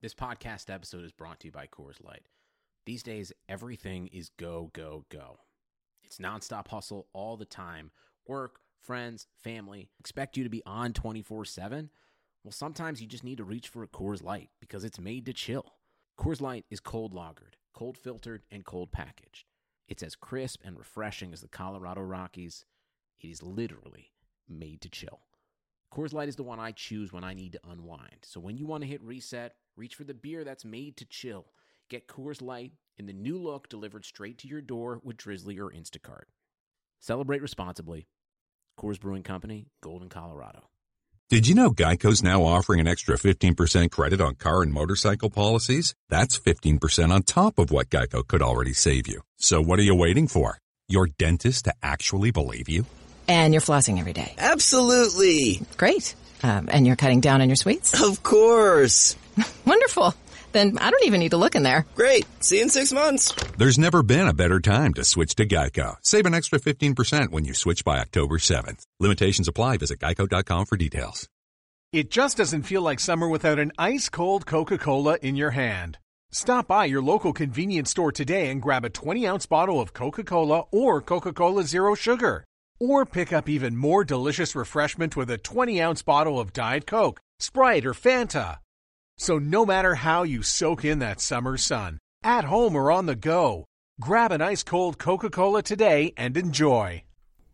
This podcast episode is brought to you by Coors Light. These days, everything is go, go, go. It's nonstop hustle all the time. Work, friends, family, expect you to be on 24/7. Well, sometimes you just need to reach for a Coors Light because it's made to chill. Coors Light is cold lagered, cold filtered, and cold packaged. It's as crisp and refreshing as the Colorado Rockies. It is literally made to chill. Coors Light is the one I choose when I need to unwind. So when you want to hit reset, reach for the beer that's made to chill. Get Coors Light in the new look delivered straight to your door with Drizzly or Instacart. Celebrate responsibly. Coors Brewing Company, Golden, Colorado. Did you know Geico's now offering an extra 15% credit on car and motorcycle policies? That's 15% on top of what Geico could already save you. So what are you waiting for? Your dentist to actually believe you? And you're flossing every day. Absolutely. Great. And you're cutting down on your sweets? Of course. Wonderful. Then I don't even need to look in there. Great. See you in 6 months. There's never been a better time to switch to Geico. Save an extra 15% when you switch by October 7th. Limitations apply. Visit geico.com for details. It just doesn't feel like summer without an ice-cold Coca-Cola in your hand. Stop by your local convenience store today and grab a 20-ounce bottle of Coca-Cola or Coca-Cola Zero Sugar. Or pick up even more delicious refreshment with a 20-ounce bottle of Diet Coke, Sprite, or Fanta. So no matter how you soak in that summer sun, at home or on the go, grab an ice-cold Coca-Cola today and enjoy.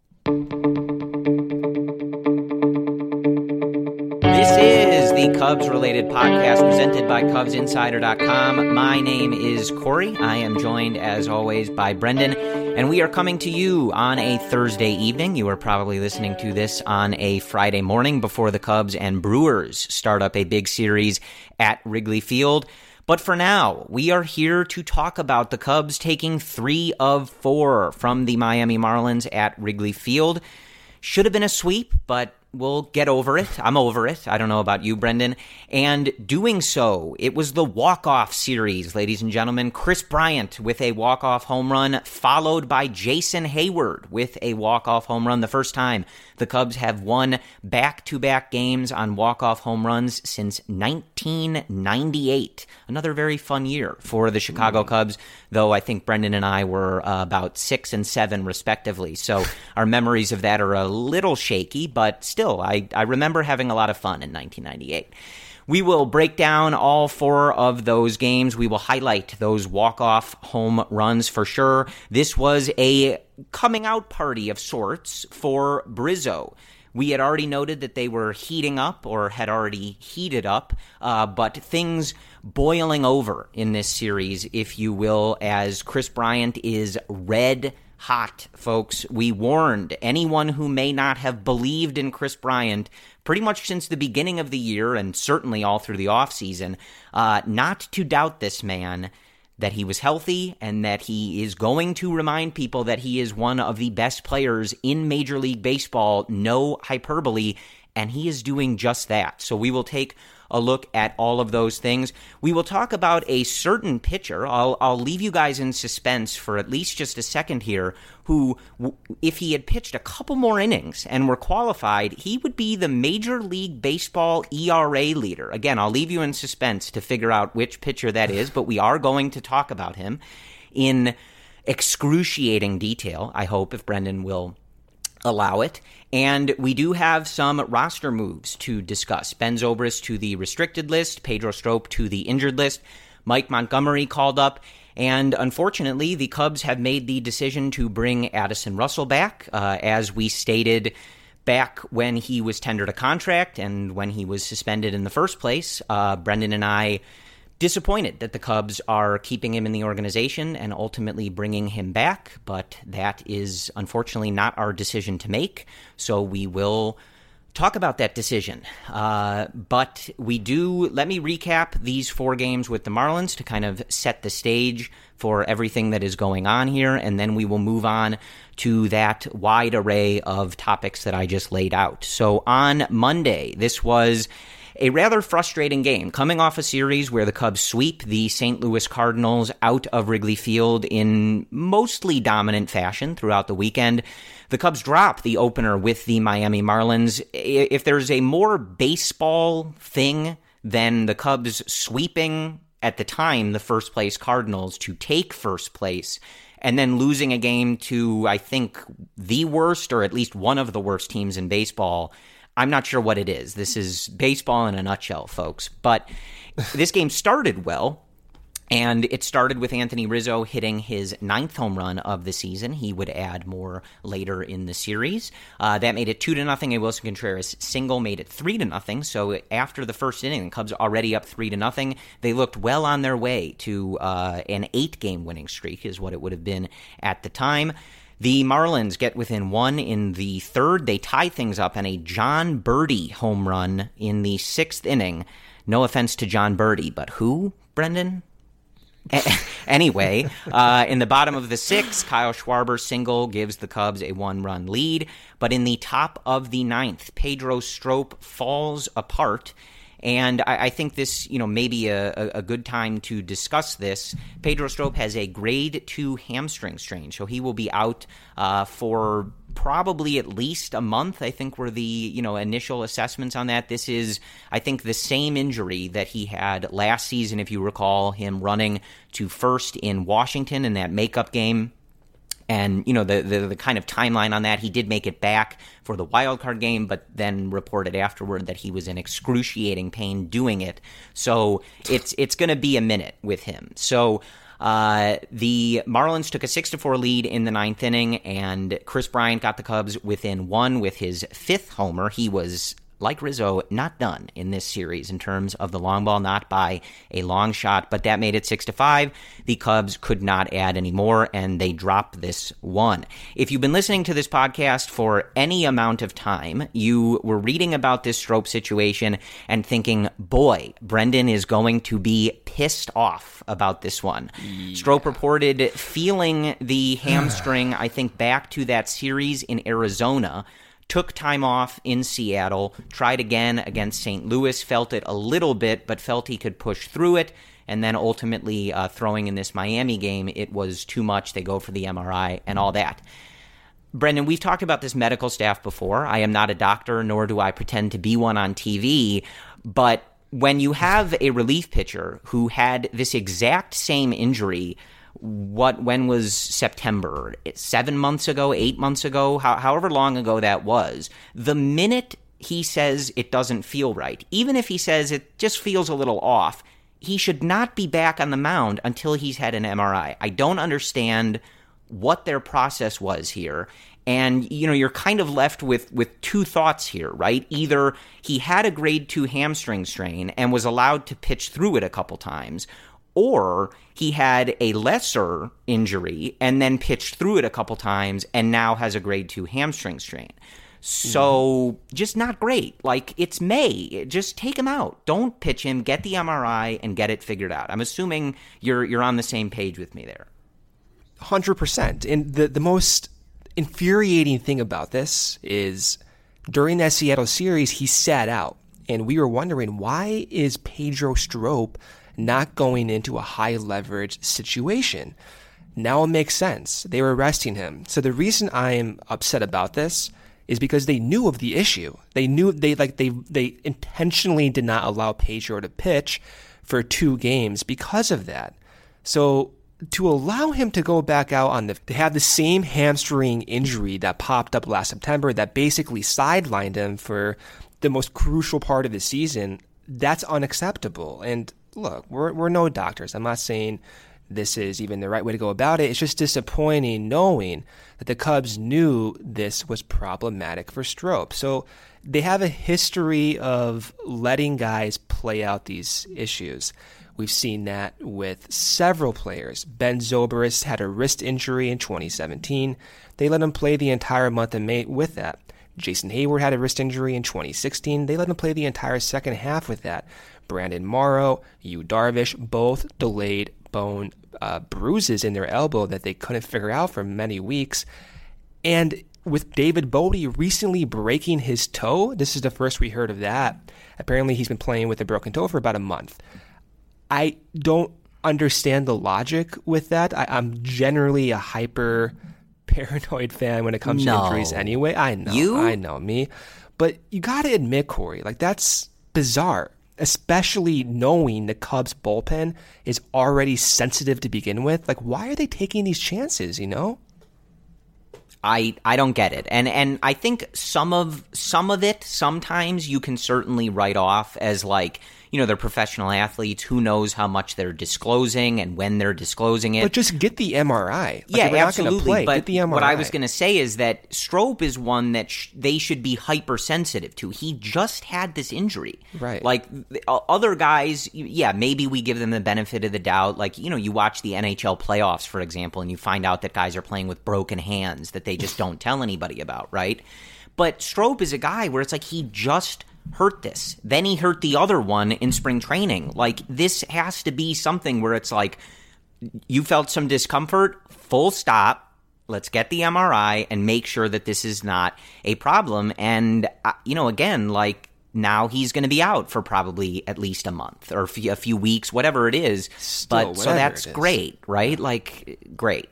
This is the Cubs-related podcast presented by CubsInsider.com. My name is Corey. I am joined, as always, by Brendan, and we are coming to you on a Thursday evening. You are probably listening to this on a Friday morning before the Cubs and Brewers start up a big series at Wrigley Field. But for now, we are here to talk about the Cubs taking 3 of 4 from the Miami Marlins at Wrigley Field. Should have been a sweep, but we'll get over it. I'm over it. I don't know about you, Brendan. And doing so, it was the walk-off series, ladies and gentlemen. Kris Bryant with a walk-off home run, followed by Jason Heyward with a walk-off home run. The first time the Cubs have won back-to-back games on walk-off home runs since 1998. Another very fun year for the Chicago Cubs, though I think Brendan and I were about 6 and 7 respectively. So our memories of that are a little shaky, but still, I remember having a lot of fun in 1998. We will break down all 4 of those games. We will highlight those walk-off home runs for sure. This was a coming out party of sorts for Brizzo. We had already noted that they were heating up or had already heated up, but things boiling over in this series, if you will, as Kris Bryant is red hot, folks. We warned anyone who may not have believed in Kris Bryant pretty much since the beginning of the year and certainly all through the offseason, not to doubt this man, that he was healthy and that he is going to remind people that he is one of the best players in Major League Baseball, no hyperbole, and he is doing just that. So we will take a look at all of those things. We will talk about a certain pitcher. I'll leave you guys in suspense for at least just a second here, who, if he had pitched a couple more innings and were qualified, he would be the Major League Baseball ERA leader. Again, I'll leave you in suspense to figure out which pitcher that is, but we are going to talk about him in excruciating detail, I hope, if Brendan will allow it. And we do have some roster moves to discuss. Ben Zobrist to the restricted list, Pedro Strop to the injured list, Mike Montgomery called up, and unfortunately the Cubs have made the decision to bring Addison Russell back, as we stated back when he was tendered a contract and when he was suspended in the first place. Brendan and I disappointed that the Cubs are keeping him in the organization and ultimately bringing him back, but that is unfortunately not our decision to make, so we will talk about that decision. But let me recap these 4 games with the Marlins to kind of set the stage for everything that is going on here, and then we will move on to that wide array of topics that I just laid out. So on Monday, this was a rather frustrating game, coming off a series where the Cubs sweep the St. Louis Cardinals out of Wrigley Field in mostly dominant fashion throughout the weekend. The Cubs drop the opener with the Miami Marlins. If there's a more baseball thing then the Cubs sweeping, at the time, the first-place Cardinals to take first place, and then losing a game to, I think, the worst, or at least one of the worst teams in baseball. I'm not sure what it is. This is baseball in a nutshell, folks. But this game started well, and it started with Anthony Rizzo hitting his 9th home run of the season. He would add more later in the series. That made it 2-0. A Wilson Contreras single made it 3-0. So after the first inning, the Cubs already up 3-0. They looked well on their way to an 8-game winning streak, is what it would have been at the time. The Marlins get within 1 in the 3rd. They tie things up on a John Birdie home run in the 6th inning. No offense to John Birdie, but who, Brendan? Anyway, in the bottom of the 6th, Kyle Schwarber's single gives the Cubs a 1-run lead. But in the top of the 9th, Pedro Strop falls apart. And I think this, may be a good time to discuss this. Pedro Strop has a grade 2 hamstring strain, so he will be out for probably at least a month, I think, were the initial assessments on that. This is, I think, the same injury that he had last season, if you recall him running to first in Washington in that makeup game. And, the kind of timeline on that, he did make it back for the wild card game, but then reported afterward that he was in excruciating pain doing it. So it's going to be a minute with him. So the Marlins took a 6-4 lead in the 9th inning, and Chris Bryant got the Cubs within 1 with his 5th homer. He was, like Rizzo, not done in this series in terms of the long ball, not by a long shot, but that made it 6-5. The Cubs could not add any more, and they dropped this one. If you've been listening to this podcast for any amount of time, you were reading about this Strop situation and thinking, boy, Brendan is going to be pissed off about this one. Yeah. Strop reported feeling the hamstring, I think, back to that series in Arizona, took time off in Seattle, tried again against St. Louis, felt it a little bit, but felt he could push through it, and then ultimately throwing in this Miami game, it was too much. They go for the MRI and all that. Brendan, we've talked about this medical staff before. I am not a doctor, nor do I pretend to be one on TV, but when you have a relief pitcher who had this exact same injury, when was September? 7 months ago, 8 months ago, however long ago that was. The minute he says it doesn't feel right, even if he says it just feels a little off, he should not be back on the mound until he's had an MRI. I don't understand what their process was here. And, you're kind of left with two thoughts here, right? Either he had a grade 2 hamstring strain and was allowed to pitch through it a couple times, or he had a lesser injury and then pitched through it a couple times and now has a grade 2 hamstring strain. So just not great. Like, it's May. Just take him out. Don't pitch him. Get the MRI and get it figured out. I'm assuming you're on the same page with me there. 100%. And the most infuriating thing about this is during that Seattle series, he sat out. And we were wondering, why is Pedro Strop not going into a high leverage situation? Now it makes sense. They were resting him. So the reason I'm upset about this is because they knew of the issue. They knew they intentionally did not allow Pedro to pitch for 2 games because of that. So to allow him to go back out to have the same hamstring injury that popped up last September that basically sidelined him for the most crucial part of the season, that's unacceptable. And look, we're no doctors. I'm not saying this is even the right way to go about it. It's just disappointing knowing that the Cubs knew this was problematic for Strop. So they have a history of letting guys play out these issues. We've seen that with several players. Ben Zobrist had a wrist injury in 2017. They let him play the entire month of May with that. Jason Hayward had a wrist injury in 2016. They let him play the entire second half with that. Brandon Morrow, Yu Darvish, both delayed bone bruises in their elbow that they couldn't figure out for many weeks. And with David Bote recently breaking his toe, this is the first we heard of that. Apparently he's been playing with a broken toe for about a month. I don't understand the logic with that. I'm generally a hyper paranoid fan when it comes to injuries anyway. I know me. But you got to admit, Corey, like, that's bizarre. especially knowing the Cubs bullpen is already sensitive to begin with. Like, why are they taking these chances, I don't get it. And I think some of it sometimes you can certainly write off as like, they're professional athletes. Who knows how much they're disclosing and when they're disclosing it. But just get the MRI. Yeah, absolutely. But get the MRI. What I was going to say is that Strop is one that they should be hypersensitive to. He just had this injury. Right. Like other guys, yeah, maybe we give them the benefit of the doubt. Like, you watch the NHL playoffs, for example, and you find out that guys are playing with broken hands that they just don't tell anybody about, right? But Strop is a guy where it's like he just hurt this. Then he hurt the other one in spring training. Like, this has to be something where it's like, you felt some discomfort, full stop, let's get the MRI and make sure that this is not a problem. And, again, like, now he's going to be out for probably at least a month or a few weeks, whatever it is. So that's great, right? Like, great.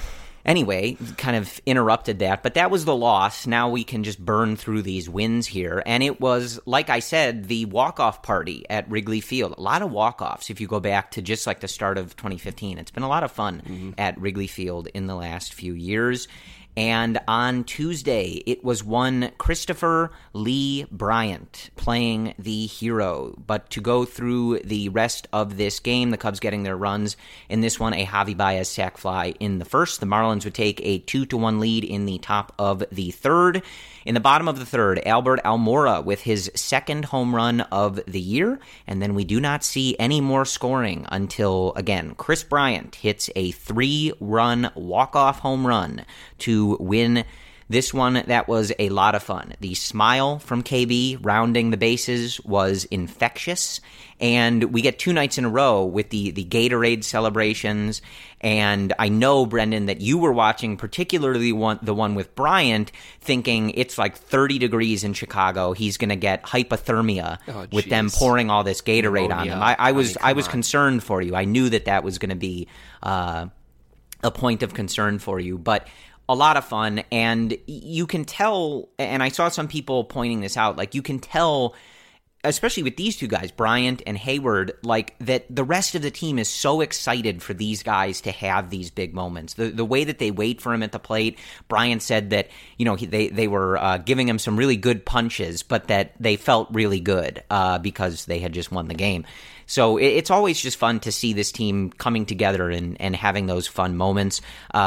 Anyway, kind of interrupted that, but that was the loss. Now we can just burn through these wins here. And it was, like I said, the walk-off party at Wrigley Field. A lot of walk-offs if you go back to just like the start of 2015. It's been a lot of fun at Wrigley Field in the last few years. And on Tuesday, it was one Christopher Lee Bryant playing the hero. But to go through the rest of this game, the Cubs getting their runs. In this one, a Javi Baez sac fly in the first. The Marlins would take a 2-1 lead in the top of the third. In the bottom of the third, Albert Almora with his second home run of the year. And then we do not see any more scoring until, again, Chris Bryant hits a 3-run walk-off home run to win this one. That was a lot of fun. The smile from KB rounding the bases was infectious. And we get 2 nights in a row with the Gatorade celebrations. And I know, Brendan, that you were watching particularly the one with Bryant, thinking it's like 30 degrees in Chicago. He's going to get hypothermia with them pouring all this Gatorade on him. I was concerned for you. I knew that was going to be a point of concern for you. But a lot of fun. And you can tell, and I saw some people pointing this out, like you can tell, especially with these two guys, Bryant and Hayward, like that the rest of the team is so excited for these guys to have these big moments. The way that they wait for him at the plate, Bryant said that, they were giving him some really good punches, but that they felt really good because they had just won the game. So it's always just fun to see this team coming together and having those fun moments.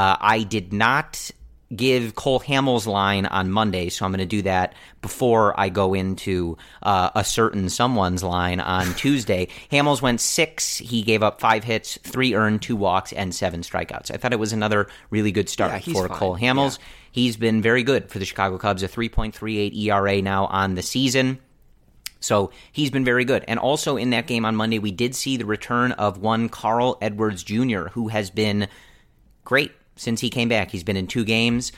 I did not give Cole Hamels' line on Monday, so I'm going to do that before I go into a certain someone's line on Tuesday. Hamels went 6. He gave up 5 hits, 3 earned, 2 walks, and 7 strikeouts. I thought it was another really good start for fine. Cole Hamels. Yeah. He's been very good for the Chicago Cubs, a 3.38 ERA now on the season. So he's been very good. And also in that game on Monday, we did see the return of one Carl Edwards Jr., who has been great since he came back. He's been in 2 games,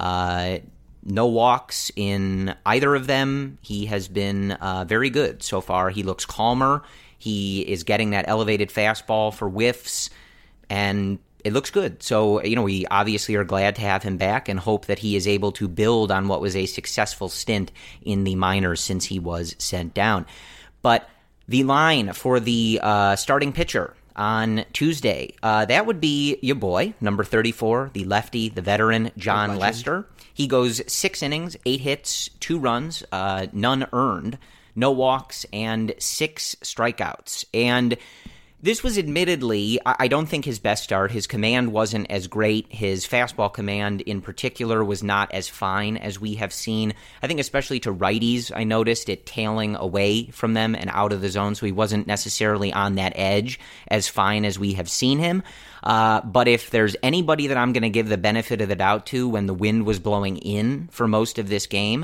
no walks in either of them. He has been very good so far. He looks calmer. He is getting that elevated fastball for whiffs, and it looks good. So, we obviously are glad to have him back and hope that he is able to build on what was a successful stint in the minors since he was sent down. But the line for the starting pitcher on Tuesday, that would be your boy, number 34, the lefty, the veteran, John Lester. He goes 6 innings, 8 hits, 2 runs, none earned, no walks, and 6 strikeouts. And this was admittedly, I don't think his best start. His command wasn't as great. His fastball command in particular was not as fine as we have seen. I think especially to righties, I noticed it tailing away from them and out of the zone, so he wasn't necessarily on that edge as fine as we have seen him. But if there's anybody that I'm going to give the benefit of the doubt to when the wind was blowing in for most of this game,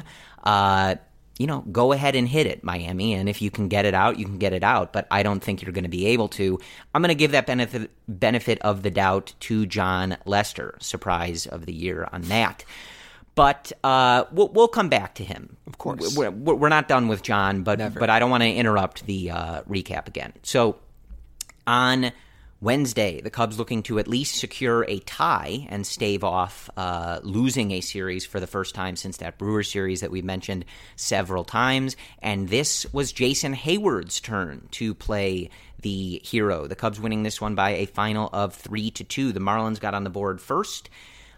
go ahead and hit it, Miami. And if you can get it out, you can get it out. But I don't think you're going to be able to. I'm going to give that benefit of the doubt to John Lester. Surprise of the year on that. But we'll come back to him. Of course. We're not done with John, but I don't want to interrupt the recap again. So on Wednesday, the Cubs looking to at least secure a tie and stave off losing a series for the first time since that Brewers series that we've mentioned several times. And this was Jason Heyward's turn to play the hero. The Cubs winning this one by a final of 3-2. The Marlins got on the board first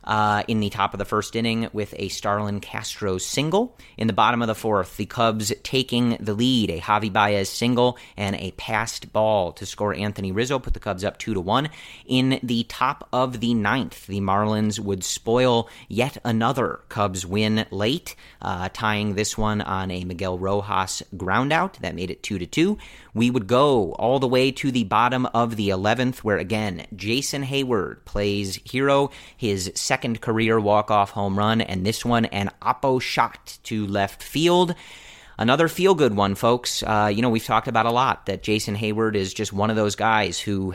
in the top of the first inning with a Starlin Castro single. In the bottom of the fourth, the Cubs taking the lead, a Javi Baez single and a passed ball to score Anthony Rizzo, put the Cubs up 2-1. In the top of the ninth, the Marlins would spoil yet another Cubs win late, tying this one on a Miguel Rojas groundout. That made it 2-2. We would go all the way to the bottom of the 11th, where again, Jason Heyward plays hero, his second career walk-off home run, and this one an oppo shot to left field. Another feel-good one, folks. We've talked about a lot that Jason Heyward is just one of those guys who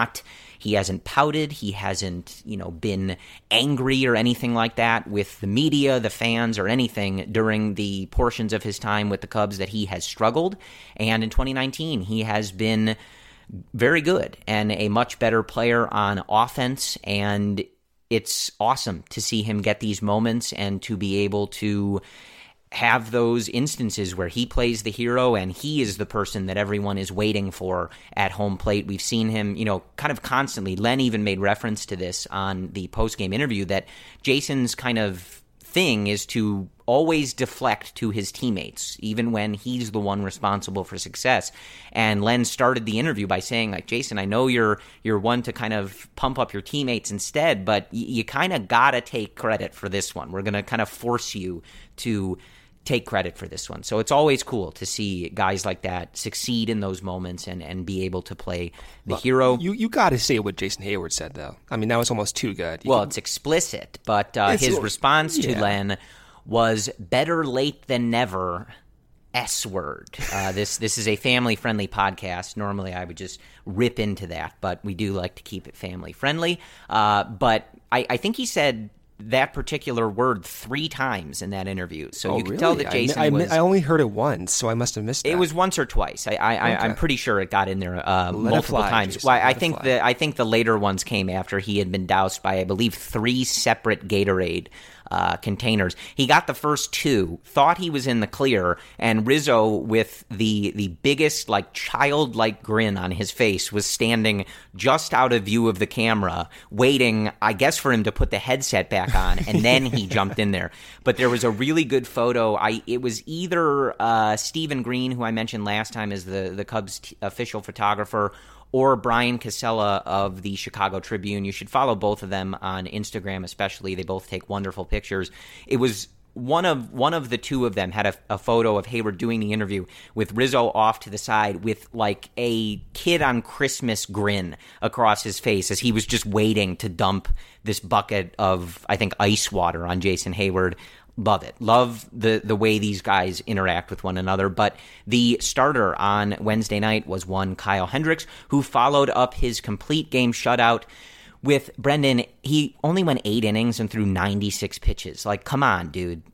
he hasn't pouted, he hasn't, been angry or anything like that with the media, the fans, or anything during the portions of his time with the Cubs that he has struggled. And in 2019, he has been very good and a much better player on offense, and it's awesome to see him get these moments and to be able to have those instances where he plays the hero and he is the person that everyone is waiting for at home plate. We've seen him, kind of constantly. Len even made reference to this on the post-game interview, that Jason's kind of thing is to always deflect to his teammates, even when he's the one responsible for success. And Len started the interview by saying, like, Jason, I know you're one to kind of pump up your teammates instead, but you kind of gotta take credit for this one. We're going to kind of force you to take credit for this one. So it's always cool to see guys like that succeed in those moments and be able to play the hero. You got to say what Jason Heyward said, though. I mean, that was almost too good. It's explicit, but his response to Len was better late than never, S-word. This is a family-friendly podcast. Normally I would just rip into that, but we do like to keep it family-friendly. But I think he said that particular word 3 times in that interview. So you can tell that Jason I only heard it once, so I must have missed that. It was once or twice. I'm pretty sure it got in there multiple times. Jason, I think the later ones came after he had been doused by, I believe, 3 separate Gatorade containers. He got the first 2, thought he was in the clear, and Rizzo, with the biggest, childlike grin on his face, was standing just out of view of the camera, waiting, I guess, for him to put the headset back on, and then he jumped in there. But there was a really good photo. It was either Stephen Green, who I mentioned last time as the Cubs official photographer, or Brian Casella of the Chicago Tribune. You should follow both of them on Instagram especially. They both take wonderful pictures. It was one of the two of them had a photo of Heyward doing the interview with Rizzo off to the side with a kid on Christmas grin across his face as he was just waiting to dump this bucket of, I think, ice water on Jason Heyward. Love it. Love the way these guys interact with one another. But the starter on Wednesday night was one Kyle Hendricks, who followed up his complete game shutout with Brendan. He only went 8 innings and threw 96 pitches. Come on, dude.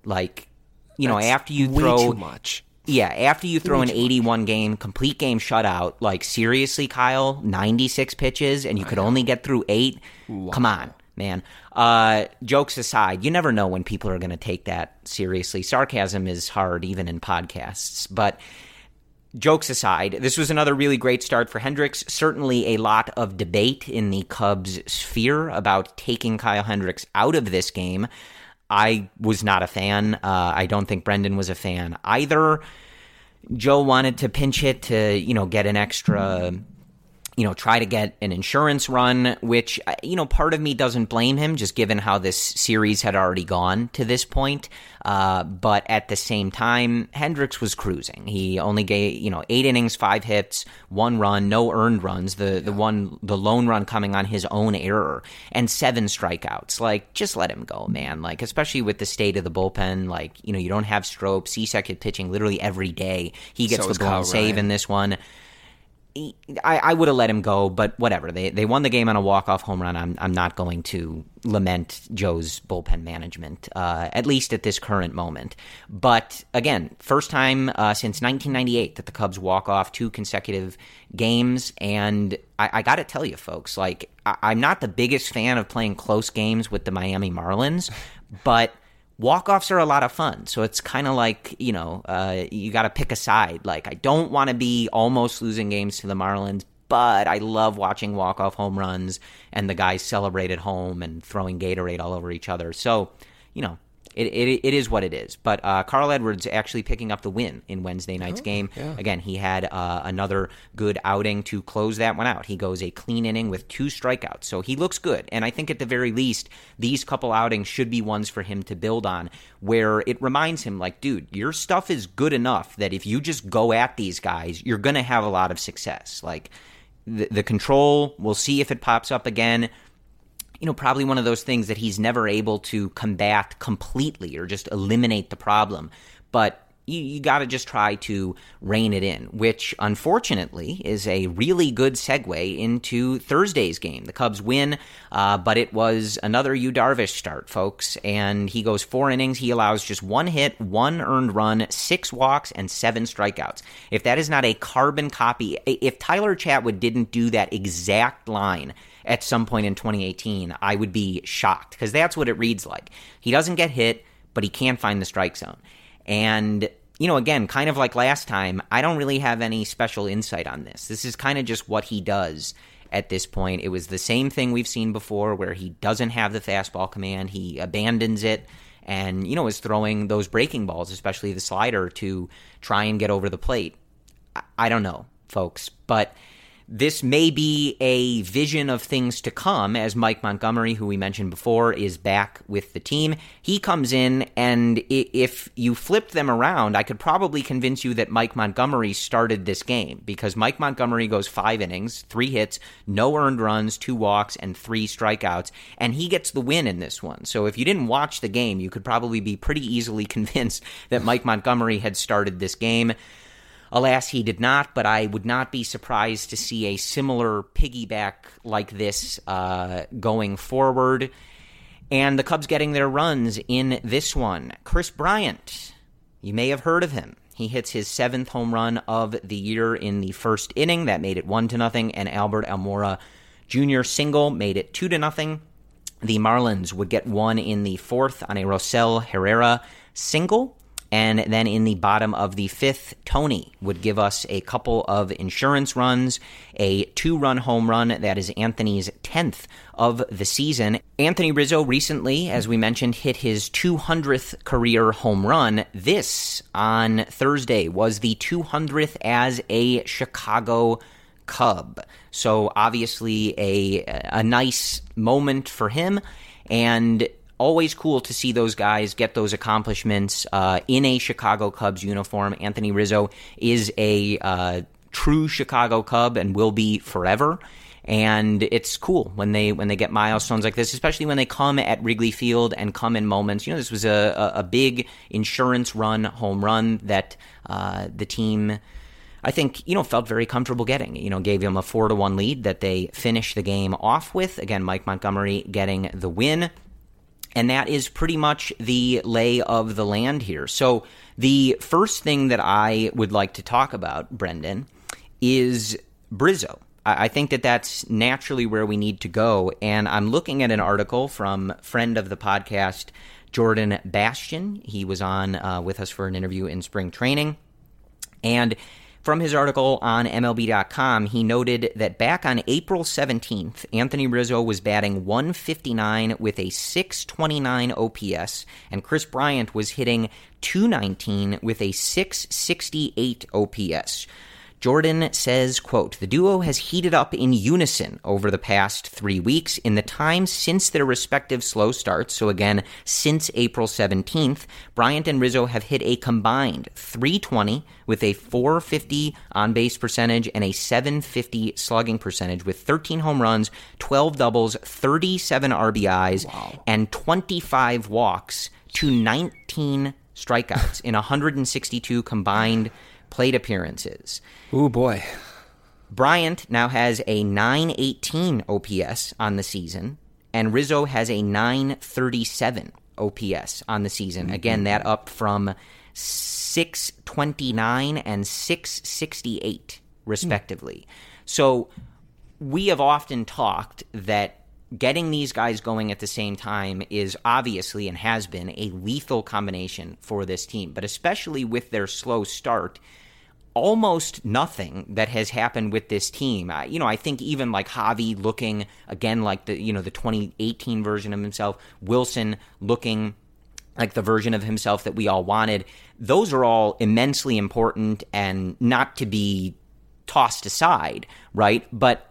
After you throw way too much. Yeah, after you throw an 81 game complete game shutout, seriously, Kyle, 96 pitches and you could only get through 8. Wow. Come on, man. Jokes aside, you never know when people are going to take that seriously. Sarcasm is hard even in podcasts, but jokes aside, this was another really great start for Hendricks. Certainly a lot of debate in the Cubs sphere about taking Kyle Hendricks out of this game. I was not a fan. I don't think Brendan was a fan either. Joe wanted to pinch hit to, get an extra, try to get an insurance run, which, part of me doesn't blame him, just given how this series had already gone to this point. But at the same time, Hendricks was cruising. He only gave, 8 innings, 5 hits, 1 run, no earned runs, the lone run coming on his own error, and 7 strikeouts. Just let him go, man. Especially with the state of the bullpen, you don't have Strop. Cishek is pitching literally every day. He gets the blown save in this one. I would have let him go, but whatever. They won the game on a walk-off home run. I'm not going to lament Joe's bullpen management, at least at this current moment. But again, first time since 1998 that the Cubs walk off 2 consecutive games. And I got to tell you, folks, like, I'm not the biggest fan of playing close games with the Miami Marlins, but walk-offs are a lot of fun, so it's kind of like, you got to pick a side. Like, I don't want to be almost losing games to the Marlins, but I love watching walk-off home runs and the guys celebrate at home and throwing Gatorade all over each other. So, it is what it is. But Carl Edwards actually picking up the win in Wednesday night's game. Yeah. Again, he had another good outing to close that one out. He goes a clean inning with 2 strikeouts. So he looks good. And I think at the very least, these couple outings should be ones for him to build on, where it reminds him, like, dude, your stuff is good enough that if you just go at these guys, you're going to have a lot of success. Like, the control, we'll see if it pops up again. Probably one of those things that he's never able to combat completely or just eliminate the problem. But you got to just try to rein it in, which unfortunately is a really good segue into Thursday's game. The Cubs win, but it was another Yu Darvish start, folks, and he goes 4 innings. He allows just 1 hit, 1 earned run, 6 walks, and 7 strikeouts. If that is not a carbon copy, if Tyler Chatwood didn't do that exact line at some point in 2018, I would be shocked, because that's what it reads like. He doesn't get hit, but he can't find the strike zone. And, again, kind of like last time, I don't really have any special insight on this. This is kind of just what he does at this point. It was the same thing we've seen before, where he doesn't have the fastball command. He abandons it and, is throwing those breaking balls, especially the slider, to try and get over the plate. I don't know, folks, but this may be a vision of things to come, as Mike Montgomery, who we mentioned before, is back with the team. He comes in, and if you flipped them around, I could probably convince you that Mike Montgomery started this game, because Mike Montgomery goes 5 innings, 3 hits, no earned runs, 2 walks, and 3 strikeouts, and he gets the win in this one. So if you didn't watch the game, you could probably be pretty easily convinced that Mike Montgomery had started this game. Alas, he did not, but I would not be surprised to see a similar piggyback like this going forward. And the Cubs getting their runs in this one. Kris Bryant, you may have heard of him. He hits his 7th home run of the year in the first inning. That made it 1-0, and Albert Almora Jr. single made it 2-0. The Marlins would get one in the 4th on a Rosell Herrera single. And then in the bottom of the 5th, Tony would give us a couple of insurance runs, a 2-run home run. That is Anthony's 10th of the season. Anthony Rizzo recently, as we mentioned, hit his 200th career home run. This, on Thursday, was the 200th as a Chicago Cub. So obviously a nice moment for him, and always cool to see those guys get those accomplishments in a Chicago Cubs uniform. Anthony Rizzo is a true Chicago Cub and will be forever. And it's cool when they get milestones like this, especially when they come at Wrigley Field and come in moments. This was a big insurance run, home run that the team, I think, felt very comfortable getting. Gave them a 4-1 lead that they finished the game off with. Again, Mike Montgomery getting the win. And that is pretty much the lay of the land here. So the first thing that I would like to talk about, Brendan, is Brizzo. I think that that's naturally where we need to go. And I'm looking at an article from friend of the podcast, Jordan Bastian. He was on with us for an interview in spring training. And from his article on MLB.com, he noted that back on April 17th, Anthony Rizzo was batting .159 with a .629 OPS, and Kris Bryant was hitting .219 with a .668 OPS. Jordan says, quote, "The duo has heated up in unison over the past 3 weeks. In the time since their respective slow starts, so again, since April 17th, Bryant and Rizzo have hit a combined .320 with a .450 on-base percentage and a .750 slugging percentage with 13 home runs, 12 doubles, 37 RBIs, and 25 walks to 19 strikeouts in 162 combined plate appearances." Ooh, boy. Bryant now has a 918 OPS on the season, and Rizzo has a 937 OPS on the season. Again, that up from 629 and 668, respectively. So we have often talked that getting these guys going at the same time is obviously and has been a lethal combination for this team. But especially with their slow start, almost nothing that has happened with this team. I think even like Javi looking again like the 2018 version of himself, Wilson looking like the version of himself that we all wanted. Those are all immensely important and not to be tossed aside, right? But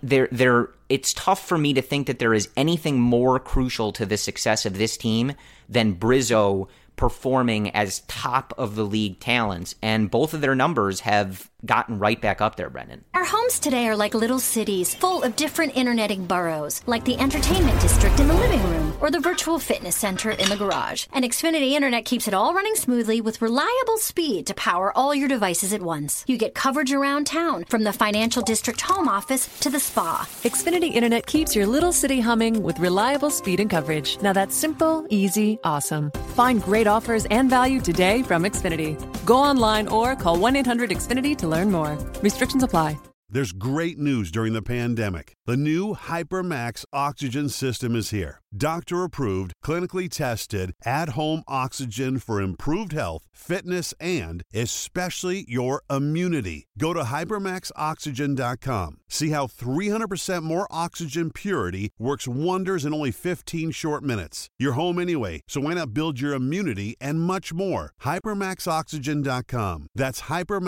it's tough for me to think that there is anything more crucial to the success of this team than Brizzo performing as top of the league talents, and both of their numbers have gotten right back up there, Brendan. Our homes today are like little cities full of different interneting boroughs, like the entertainment district in the living room or the virtual fitness center in the garage. And Xfinity Internet keeps it all running smoothly with reliable speed to power all your devices at once. You get coverage around town, from the financial district home office to the spa. Xfinity Internet keeps your little city humming with reliable speed and coverage. Now that's simple, easy, awesome. Find great offers and value today from Xfinity. Go online or call 1-800-XFINITY to learn more. Restrictions apply. There's great news during the pandemic. The new HyperMax oxygen system is here. Doctor-approved, clinically tested, at-home oxygen for improved health, fitness, and especially your immunity. Go to HyperMaxOxygen.com. See how 300% more oxygen purity works wonders in only 15 short minutes. You're home anyway, so why not build your immunity and much more? HyperMaxOxygen.com. That's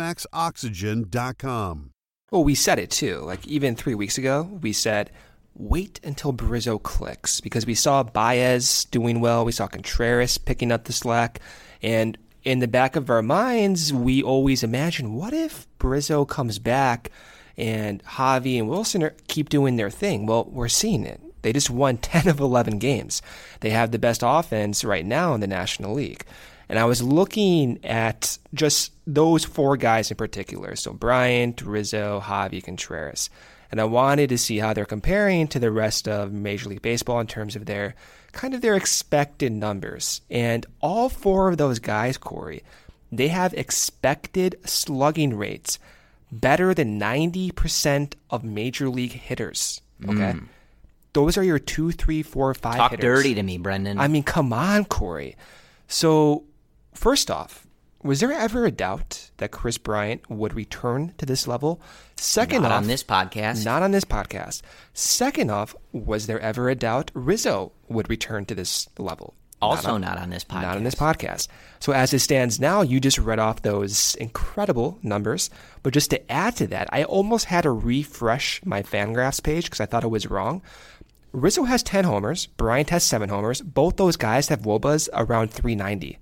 HyperMaxOxygen.com. Well, we said it too. Like even 3 weeks ago, we said, wait until Brizzo clicks, because we saw Baez doing well. We saw Contreras picking up the slack. And in the back of our minds, we always imagine, what if Brizzo comes back and Javi and Wilson keep doing their thing? Well, we're seeing it. They just won 10 of 11 games. They have the best offense right now in the National League. And I was looking at just those four guys in particular. So Bryant, Rizzo, Javi, Contreras. And I wanted to see how they're comparing to the rest of Major League Baseball in terms of their expected numbers. And all four of those guys, Corey, they have expected slugging rates better than 90% of Major League hitters. Okay? Those are your 2, 3, 4, 5 Talk hitters. dirty to me, Brendan. I mean, come on, Corey. So, first off, was there ever a doubt that Kris Bryant would return to this level? Second off, not on this podcast. Not on this podcast. Second off, was there ever a doubt Rizzo would return to this level? Also not on this podcast. Not on this podcast. So as it stands now, you just read off those incredible numbers. But just to add to that, I almost had to refresh my Fangraphs page because I thought it was wrong. Rizzo has 10 homers. Bryant has 7 homers. Both those guys have WOBAs around 390.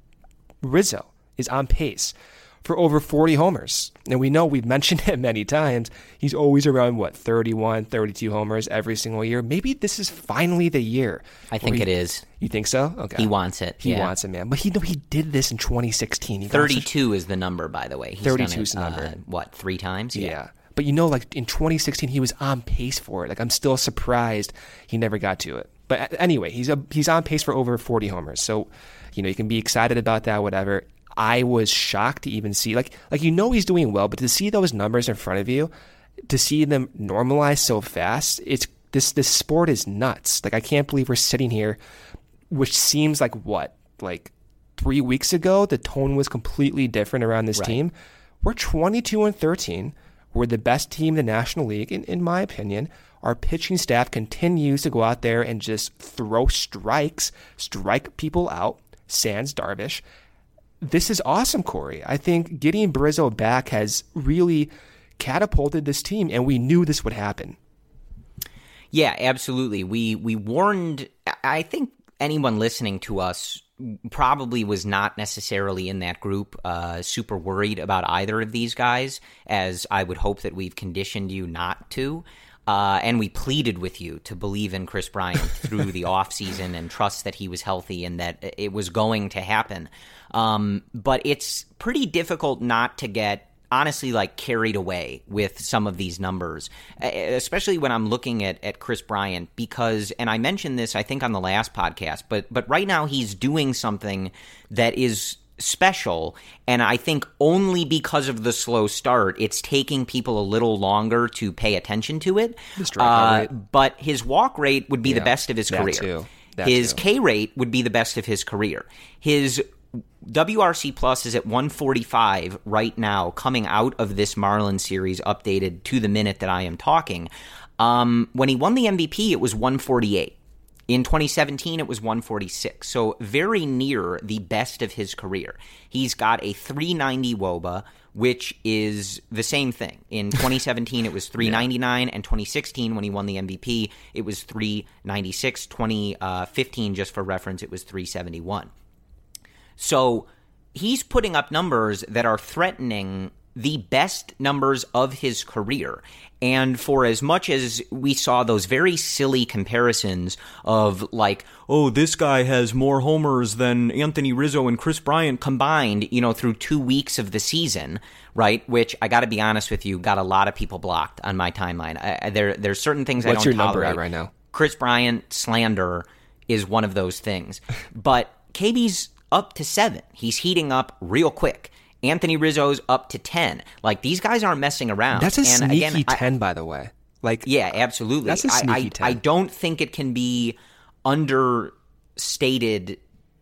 Rizzo is on pace for over 40 homers. And we know, we've mentioned it many times, he's always around, 31, 32 homers every single year. Maybe this is finally the year. I think it is. You think so? Okay. He wants it. He wants it, man. But he did this in 2016. 32 is the number, by the way. 32 is the number. 3 times? Yeah. But in 2016, he was on pace for it. I'm still surprised he never got to it. But anyway, he's on pace for over 40 homers. So, you can be excited about that, whatever. I was shocked to even see, he's doing well, but to see those numbers in front of you, to see them normalize so fast, this sport is nuts. I can't believe we're sitting here, which seems like 3 weeks ago, the tone was completely different around this team. We're 22-13. We're the best team in the National League, in my opinion. Our pitching staff continues to go out there and just throw strikes, strike people out, sans Darvish. This is awesome, Corey. I think getting Brizzo back has really catapulted this team, and we knew this would happen. Yeah, absolutely. We warned, I think anyone listening to us probably was not necessarily in that group super worried about either of these guys, as I would hope that we've conditioned you not to. And we pleaded with you to believe in Kris Bryant through the offseason and trust that he was healthy and that it was going to happen. But it's pretty difficult not to get honestly like carried away with some of these numbers, especially when I'm looking at Kris Bryant, because, and I mentioned this, I think, on the last podcast, but right now he's doing something that is special, and I think only because of the slow start, it's taking people a little longer to pay attention to it. But his walk rate would be the best of his career. His K rate would be the best of his career. His WRC Plus is at 145 right now, coming out of this Marlins series, updated to the minute that I am talking. When he won the MVP, it was 148. In 2017, it was 146. So very near the best of his career. He's got a 390 WOBA, which is the same thing. In 2017, it was 399, and 2016, when he won the MVP, it was 396. 2015, just for reference, it was 371. So he's putting up numbers that are threatening the best numbers of his career. And for as much as we saw those very silly comparisons of like, oh, this guy has more homers than Anthony Rizzo and Kris Bryant combined, through 2 weeks of the season, right? Which, I got to be honest with you, got a lot of people blocked on my timeline. There's certain things I don't tolerate. What's your number at right now? Kris Bryant slander is one of those things. But KB's up to 7. He's heating up real quick. Anthony Rizzo's up to 10. Like, these guys aren't messing around. That's a sneaky 10, by the way. Like, yeah, absolutely. That's a sneaky 10. I don't think it can be overstated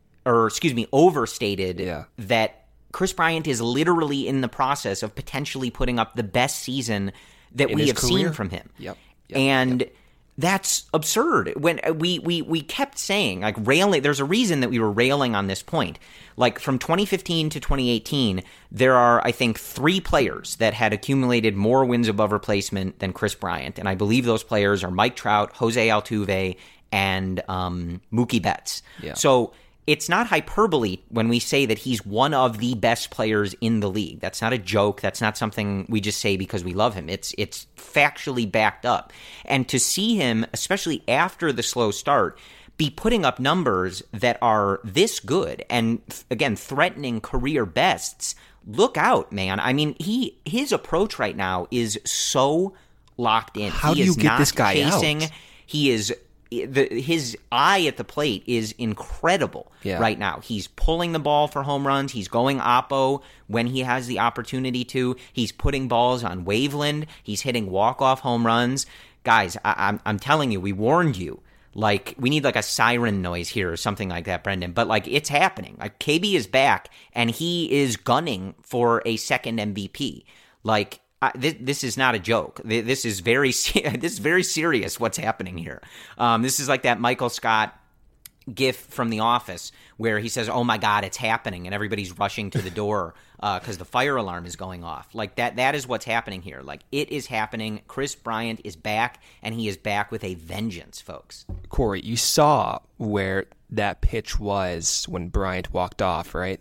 that Kris Bryant is literally in the process of potentially putting up the best season that we have seen from him. Yep. And that's absurd. When we kept saying, like, railing, there's a reason that we were railing on this point. Like, from 2015 to 2018, there are, I think, 3 players that had accumulated more wins above replacement than Kris Bryant. And I believe those players are Mike Trout, Jose Altuve, and Mookie Betts. Yeah. So it's not hyperbole when we say that he's one of the best players in the league. That's not a joke. That's not something we just say because we love him. It's factually backed up. And to see him, especially after the slow start, be putting up numbers that are this good and, again, threatening career bests, look out, man. I mean, his approach right now is so locked in. How do you get this guy out? He is... his eye at the plate is incredible right now. He's pulling the ball for home runs. He's going oppo when he has the opportunity to. He's putting balls on Waveland. He's hitting walk-off home runs. Guys, I'm telling you, we warned you. Like, we need like a siren noise here or something like that, Brendan. But like, it's happening. Like, KB is back, and he is gunning for a second MVP. Like, this is not a joke. This is very serious. What's happening here? This is like that Michael Scott gif from The Office where he says, "Oh my God, it's happening," and everybody's rushing to the door because the fire alarm is going off. Like that. That is what's happening here. Like, it is happening. Kris Bryant is back, and he is back with a vengeance, folks. Corey, you saw where that pitch was when Bryant walked off, right?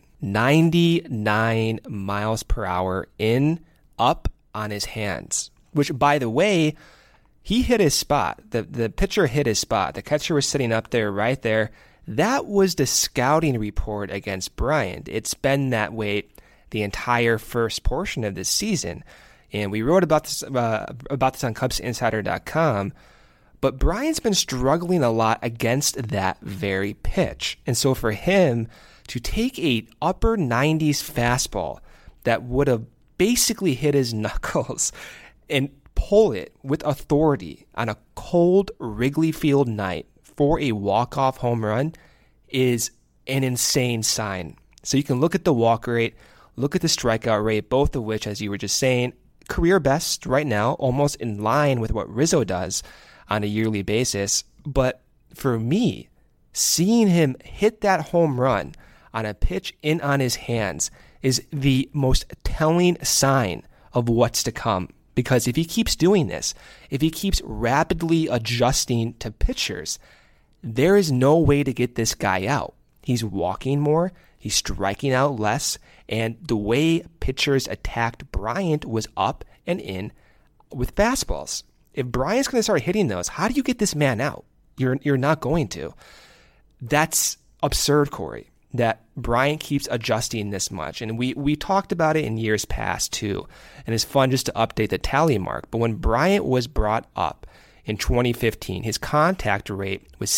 99 miles per hour up on his hands, which, by the way, he hit his spot. The pitcher hit his spot. The catcher was sitting up there, right there. That was the scouting report against Bryant. It's been that way the entire first portion of this season. And we wrote about this on CubsInsider.com. But Bryant's been struggling a lot against that very pitch. And so for him to take a upper 90s fastball that would have basically hit his knuckles and pull it with authority on a cold Wrigley Field night for a walk-off home run is an insane sign. So you can look at the walk rate, look at the strikeout rate, both of which, as you were just saying, career best right now, almost in line with what Rizzo does on a yearly basis. But for me, seeing him hit that home run on a pitch in on his hands is the most telling sign of what's to come. Because if he keeps doing this, if he keeps rapidly adjusting to pitchers, there is no way to get this guy out. He's walking more, he's striking out less, and the way pitchers attacked Bryant was up and in with fastballs. If Bryant's going to start hitting those, how do you get this man out? You're not going to. That's absurd, Corey. that Bryant keeps adjusting this much. And we talked about it in years past too. And it's fun just to update the tally mark. But when Bryant was brought up in 2015, his contact rate was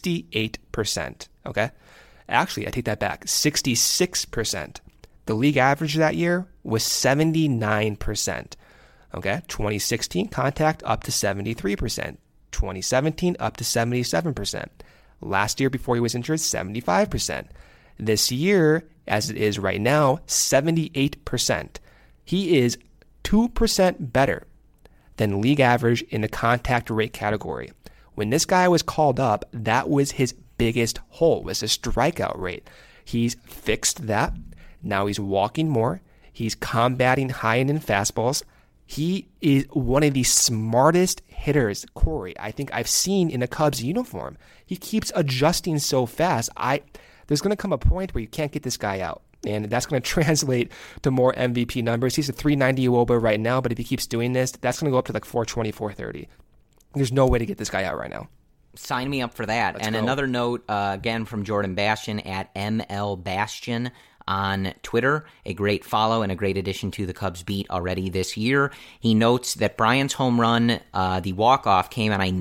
68%. Okay? Actually, I take that back. 66%. The league average that year was 79%. Okay? 2016, contact up to 73%. 2017, up to 77%. Last year, before he was injured, 75%. This year, as it is right now, 78%. He is 2% better than league average in the contact rate category. When this guy was called up, that was his biggest hole, was the strikeout rate. He's fixed that. Now he's walking more. He's combating high and in fastballs. He is one of the smartest hitters, Corey, I think I've seen in a Cubs uniform. He keeps adjusting so fast. There's going to come a point where you can't get this guy out, and that's going to translate to more MVP numbers. He's a 390 WOBA right now, but if he keeps doing this, that's going to go up to like 420, 430. There's no way to get this guy out right now. Sign me up for that. Let's and go. Another note, again, from Jordan Bastian at ML Bastian on Twitter, a great follow and a great addition to the Cubs beat already this year. He notes that Bryant's home run, the walk-off, came on a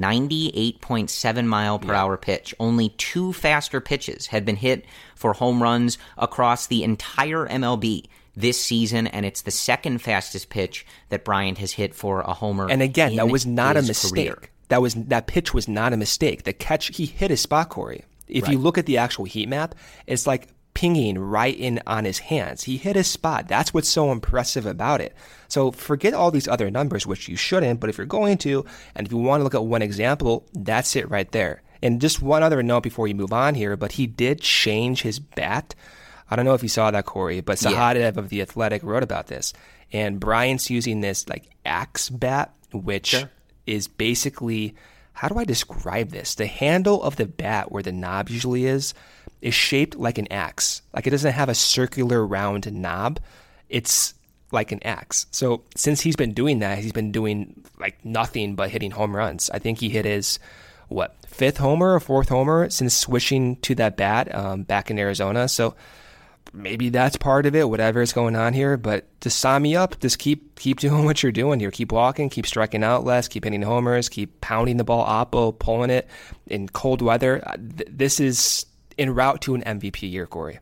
98.7 mile per hour pitch. Only 2 faster pitches had been hit for home runs across the entire MLB this season, and it's the second fastest pitch that Bryant has hit for a homer. And again, that was not a mistake. Career. That pitch was not a mistake. The catch, he hit his spot, Corey. If you look at the actual heat map, it's like pinging right in on his hands. He hit his spot. That's what's so impressive about it. So forget all these other numbers, which you shouldn't, but if you're going to, and if you want to look at one example, that's it right there. And just one other note before you move on here, but he did change his bat. I don't know if you saw that, Corey, but Sahadev of The Athletic wrote about this. And Bryant's using this like axe bat, which is basically, how do I describe this? The handle of the bat where the knob usually is shaped like an axe. Like it doesn't have a circular round knob. It's like an axe. So since he's been doing that, he's been doing like nothing but hitting home runs. I think he hit his, 5th homer or 4th homer since switching to that bat back in Arizona. So maybe that's part of it, whatever is going on here. But to sign me up, just keep doing what you're doing here. Keep walking, keep striking out less, keep hitting homers, keep pounding the ball oppo, pulling it in cold weather. This is en route to an MVP year, Corey.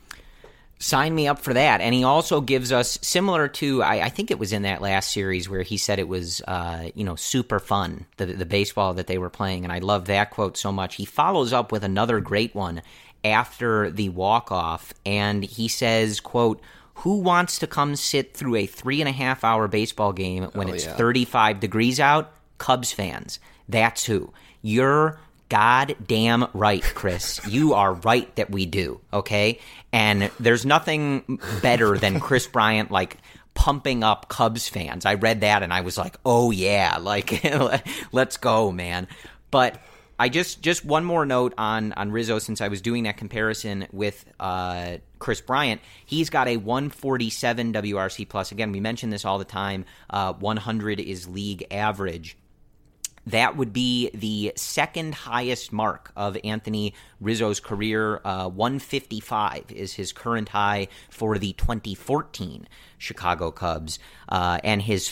Sign me up for that. And he also gives us, similar to, I think it was in that last series where he said it was, super fun, the baseball that they were playing. And I love that quote so much. He follows up with another great one after the walk-off, and he says, quote, "Who wants to come sit through a 3.5-hour baseball game when it's 35 degrees out? Cubs fans. That's who. You're goddamn right, Chris. You are right that we do, okay? And there's nothing better than Chris Bryant, like, pumping up Cubs fans. I read that, and I was like, oh, yeah, like, let's go, man. But I just one more note on Rizzo, since I was doing that comparison with Chris Bryant. He's got a 147 WRC plus. Again, we mention this all the time. 100 is league average. That would be the second highest mark of Anthony Rizzo's career. 155 is his current high for the 2014 Chicago Cubs. And his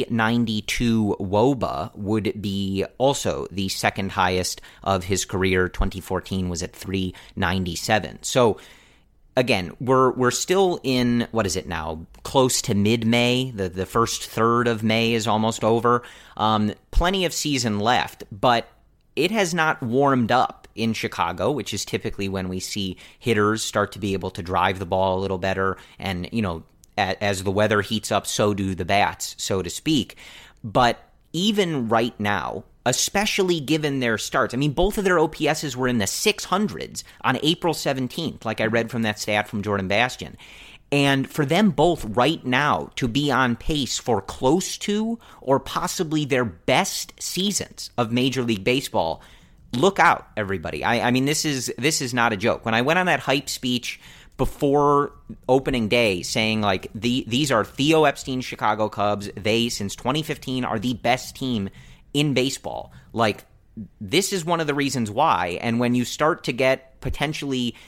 392 WOBA would be also the second highest of his career. 2014 was at 397. So, again, we're still in, what is it now, close to mid-May. The first third of May is almost over. Plenty of season left, but it has not warmed up in Chicago, which is typically when we see hitters start to be able to drive the ball a little better. And, as the weather heats up, so do the bats, so to speak. But even right now, especially given their starts. I mean, both of their OPSs were in the 600s on April 17th, like I read from that stat from Jordan Bastian. And for them both right now to be on pace for close to or possibly their best seasons of Major League Baseball, look out, everybody. I mean, this is not a joke. When I went on that hype speech before opening day saying, like, these are Theo Epstein's Chicago Cubs, they, since 2015, are the best team in baseball. Like, this is one of the reasons why. And when you start to get potentially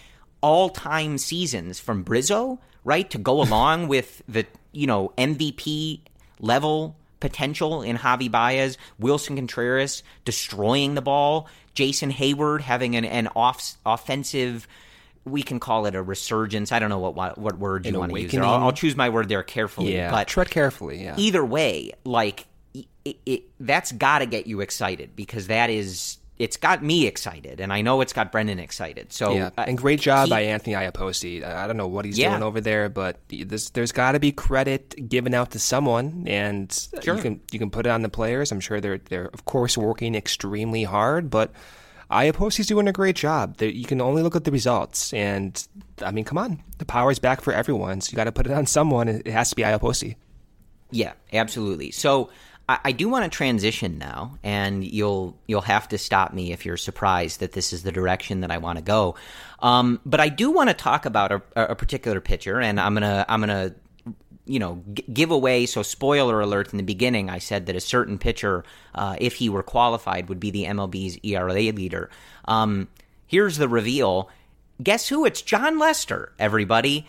all-time seasons from Brizzo, right, to go along with the, MVP level potential in Javi Baez, Wilson Contreras destroying the ball, Jason Hayward having an offensive, we can call it a resurgence. I don't know what word you want to use there. I'll choose my word there carefully. Yeah, but tread carefully, yeah. Either way, like, that's got to get you excited, because it's got me excited, and I know it's got Brendan excited. So, yeah, and great job by Anthony Iapoce. I don't know what he's doing over there, but there's got to be credit given out to someone, and sure. you can put it on the players. I'm sure they're of course working extremely hard, but Iapoce's doing a great job. You can only look at the results, and I mean, come on, the power's back for everyone, so you got to put it on someone. It has to be Iapoce. Yeah, absolutely. So I do want to transition now, and you'll have to stop me if you're surprised that this is the direction that I want to go. But I do want to talk about a particular pitcher, and I'm gonna give away. So, spoiler alert: in the beginning, I said that a certain pitcher, if he were qualified, would be the MLB's ERA leader. Here's the reveal. Guess who? It's Jon Lester. Everybody.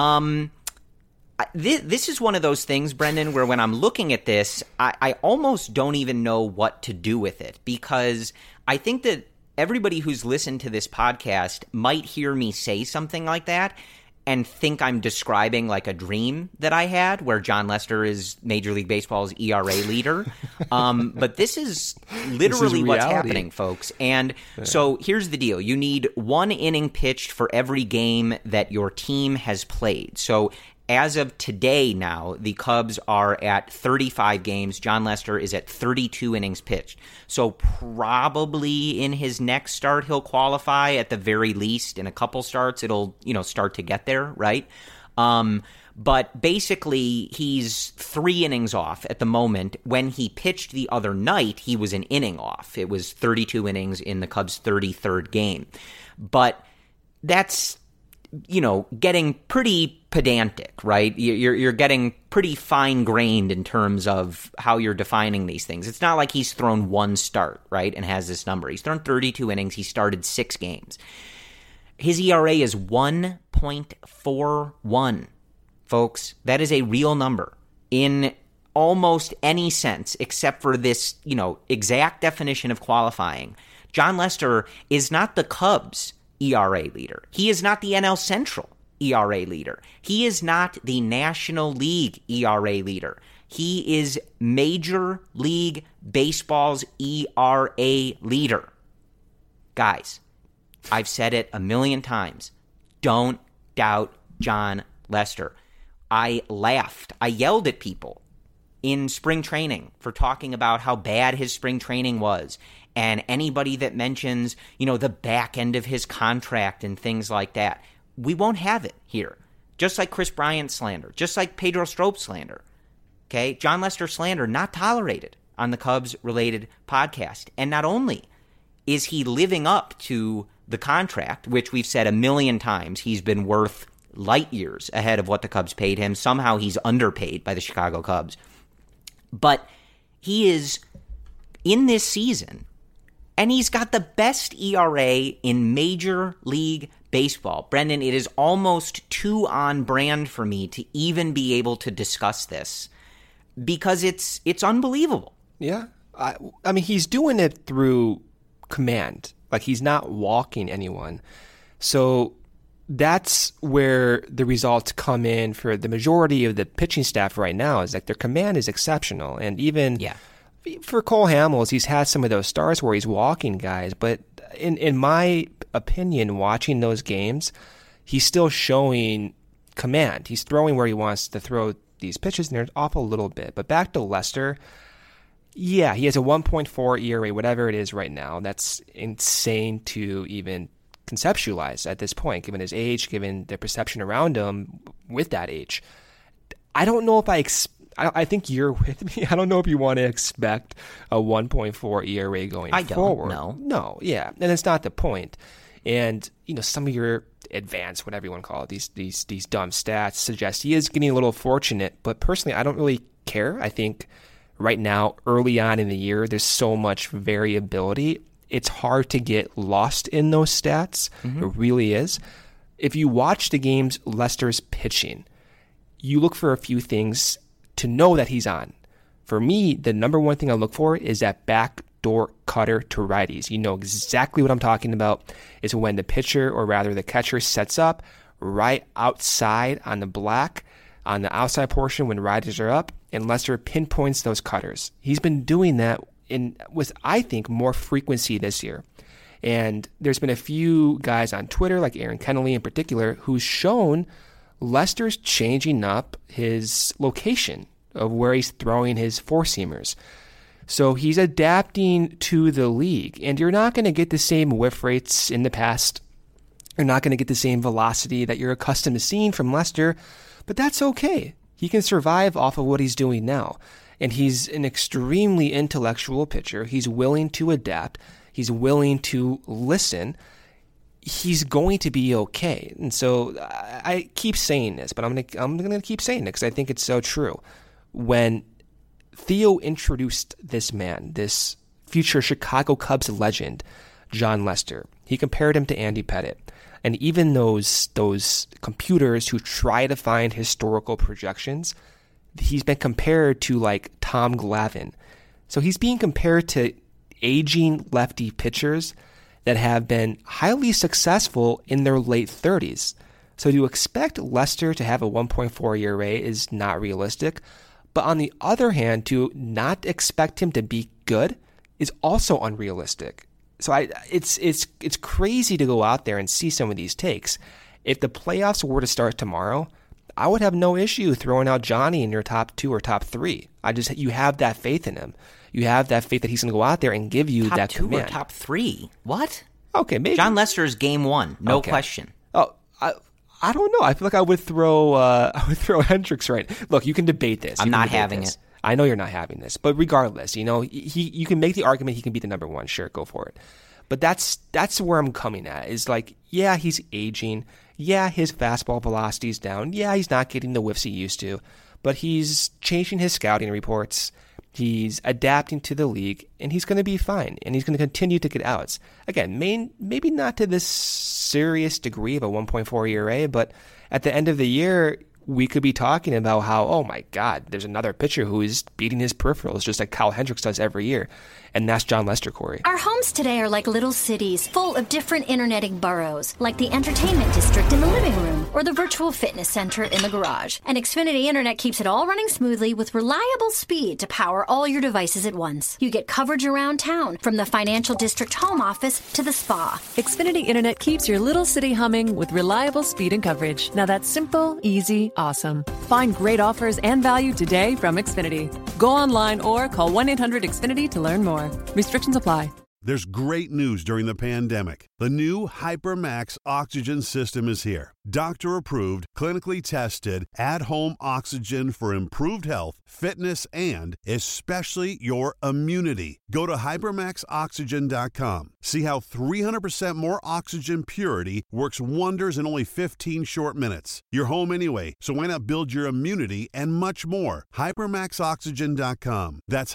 This is one of those things, Brendan, where when I'm looking at this, I almost don't even know what to do with it, because I think that everybody who's listened to this podcast might hear me say something like that and think I'm describing like a dream that I had where Jon Lester is Major League Baseball's ERA leader. But this is literally what's happening, folks. And so here's the deal. You need 1 inning pitched for every game that your team has played. So as of today now, the Cubs are at 35 games. Jon Lester is at 32 innings pitched. So probably in his next start, he'll qualify. At the very least, in a couple starts, it'll, start to get there, right? But basically, he's 3 innings off at the moment. When he pitched the other night, he was an inning off. It was 32 innings in the Cubs' 33rd game. But that's, getting pretty pedantic, right? You're getting pretty fine-grained in terms of how you're defining these things. It's not like he's thrown 1 start, right, and has this number. He's thrown 32 innings. He started 6 games. His ERA is 1.41, folks. That is a real number in almost any sense except for this, exact definition of qualifying. Jon Lester is not the Cubs' ERA leader. He is not the NL Central ERA leader. He is not the National League ERA leader. He is Major League Baseball's ERA leader. Guys, I've said it a million times. Don't doubt Jon Lester. I laughed. I yelled at people in spring training for talking about how bad his spring training was. And anybody that mentions, the back end of his contract and things like that, we won't have it here. Just like Chris Bryant slander, just like Pedro Strop slander. Okay? Jon Lester slander not tolerated on the Cubs-related podcast. And not only is he living up to the contract, which we've said a million times, he's been worth light years ahead of what the Cubs paid him. Somehow he's underpaid by the Chicago Cubs. But he is, in this season, and he's got the best ERA in Major League Baseball. Brendan, it is almost too on brand for me to even be able to discuss this because it's unbelievable. Yeah. I mean, he's doing it through command. Like, he's not walking anyone. So that's where the results come in for the majority of the pitching staff right now, is like their command is exceptional. And even for Cole Hamels, he's had some of those starts where he's walking guys, but in my opinion, watching those games, he's still showing command. He's throwing where he wants to throw these pitches, and they're off a little bit. But back to Lester, yeah, he has a 1.4 ERA, whatever it is right now. That's insane to even conceptualize at this point, given his age, given the perception around him with that age. I don't know if I think you're with me. I don't know if you want to expect a 1.4 ERA going forward. No, yeah, and it's not the point. And some of your advanced, whatever you want to call it, these dumb stats suggest he is getting a little fortunate. But personally, I don't really care. I think right now, early on in the year, there's so much variability. It's hard to get lost in those stats. Mm-hmm. It really is. if you watch the games Lester's pitching, you look for a few things to know that he's on. For me, the number one thing I look for is that backdoor cutter to righties. You know exactly what I'm talking about. It's when the pitcher, or rather the catcher, sets up right outside on the black, on the outside portion when righties are up, and Lester pinpoints those cutters. He's been doing that with, I think, more frequency this year. And there's been a few guys on Twitter, like Aaron Kennelly in particular, who's shown Lester's changing up his location of where he's throwing his four-seamers. So he's adapting to the league, and you're not going to get the same whiff rates in the past. You're not going to get the same velocity that you're accustomed to seeing from Lester, but that's okay. He can survive off of what he's doing now, and he's an extremely intellectual pitcher. He's willing to adapt. He's willing to listen. He's going to be okay. And so I keep saying this, but I'm gonna keep saying it because I think it's so true. When Theo introduced this man, this future Chicago Cubs legend, Jon Lester, he compared him to Andy Pettitte. And even those computers who try to find historical projections, he's been compared to like Tom Glavine. So he's being compared to aging lefty pitchers that have been highly successful in their late 30s. So to expect Lester to have a 1.4 ERA is not realistic. But on the other hand, to not expect him to be good is also unrealistic. So it's crazy to go out there and see some of these takes. If the playoffs were to start tomorrow, I would have no issue throwing out Johnny in your top 2 or top 3. You have that faith in him. You have that faith that he's going to go out there and give you that top 2 command. or top 3? What? Okay, maybe Jon Lester's game 1, no question. Oh, I don't know. I feel like I would throw Hendricks right. Look, you can debate this. I'm not having it. I know you're not having this, but regardless, you can make the argument he can be the number 1. Sure, go for it. But that's where I'm coming at. Is like, yeah, he's aging. Yeah, his fastball velocity is down. Yeah, he's not getting the whiffs he used to, but he's changing his scouting reports. He's adapting to the league, and he's going to be fine, and he's going to continue to get outs. Again, maybe not to this serious degree of a 1.4 ERA, but at the end of the year, we could be talking about how, oh my God, there's another pitcher who is beating his peripherals just like Kyle Hendricks does every year. And that's Jon Lester, Corey. Our homes today are like little cities full of different interneting boroughs, like the entertainment district in the living room or the virtual fitness center in the garage. And Xfinity Internet keeps it all running smoothly with reliable speed to power all your devices at once. You get coverage around town, from the financial district home office to the spa. Xfinity Internet keeps your little city humming with reliable speed and coverage. Now that's simple, easy, awesome. Find great offers and value today from Xfinity. Go online or call 1-800-XFINITY to learn more. Restrictions apply. There's great news during the pandemic. The new HyperMax oxygen system is here. Doctor-approved, clinically tested, at-home oxygen for improved health, fitness, and especially your immunity. Go to HyperMaxOxygen.com. See how 300% more oxygen purity works wonders in only 15 short minutes. You're home anyway, so why not build your immunity and much more? HyperMaxOxygen.com. That's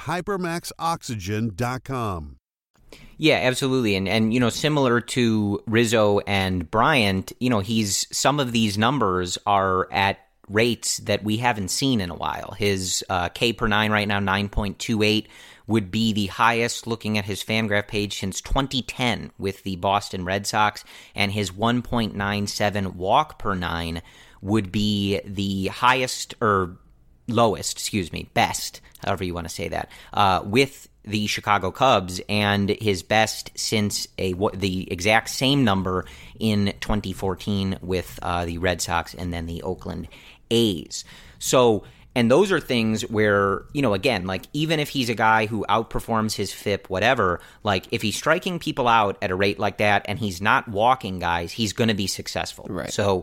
HyperMaxOxygen.com. Yeah, absolutely. And similar to Rizzo and Bryant, some of these numbers are at rates that we haven't seen in a while. His K per 9 right now, 9.28, would be the highest looking at his Fangraph page since 2010 with the Boston Red Sox, and his 1.97 walk per 9 would be the highest, or lowest, best, however you want to say that, with the Chicago Cubs, and his best since the exact same number in 2014 with the Red Sox and then the Oakland A's. So, and those are things where, again, like, even if he's a guy who outperforms his FIP, whatever, like, if he's striking people out at a rate like that and he's not walking guys, he's going to be successful. Right. So,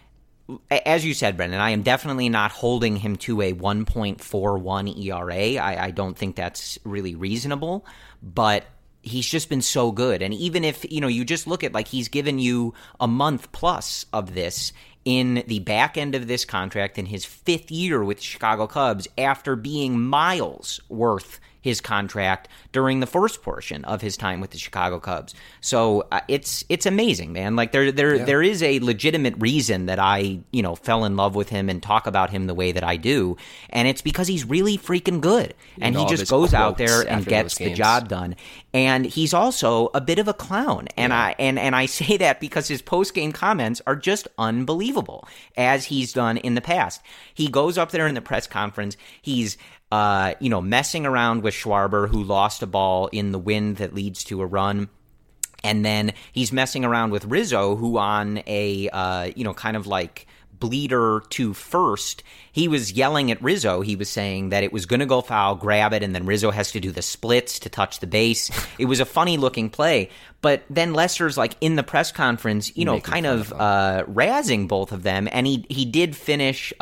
as you said, Brendan, I am definitely not holding him to a 1.41 ERA. I don't think that's really reasonable, but he's just been so good. And even if, you just look at, like, he's given you a month plus of this in the back end of this contract in his 5th year with the Chicago Cubs after being miles worth his contract during the first portion of his time with the Chicago Cubs. So it's amazing, man. Like there is a legitimate reason that I, fell in love with him and talk about him the way that I do, and it's because he's really freaking good, and he just goes out there and gets the job done. And he's also a bit of a clown, and I say that because his post-game comments are just unbelievable, as he's done in the past. He goes up there in the press conference, he's messing around with Schwarber, who lost a ball in the wind that leads to a run. And then he's messing around with Rizzo, who on a, kind of like bleeder to first, he was yelling at Rizzo. He was saying that it was going to go foul, grab it, and then Rizzo has to do the splits to touch the base. It was a funny-looking play. But then Lester's like in the press conference, kind of razzing both of them. And he did finish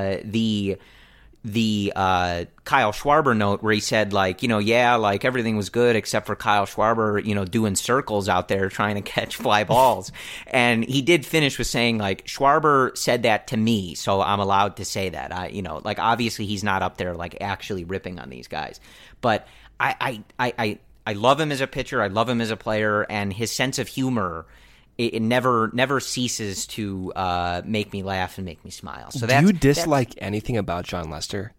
the Kyle Schwarber note where he said, like, like everything was good except for Kyle Schwarber, doing circles out there trying to catch fly balls. And he did finish with saying, like, Schwarber said that to me, so I'm allowed to say that. Obviously he's not up there, like, actually ripping on these guys. But I love him as a pitcher. I love him as a player, and his sense of humor, it never ceases to make me laugh and make me smile. So do you dislike anything about Jon Lester?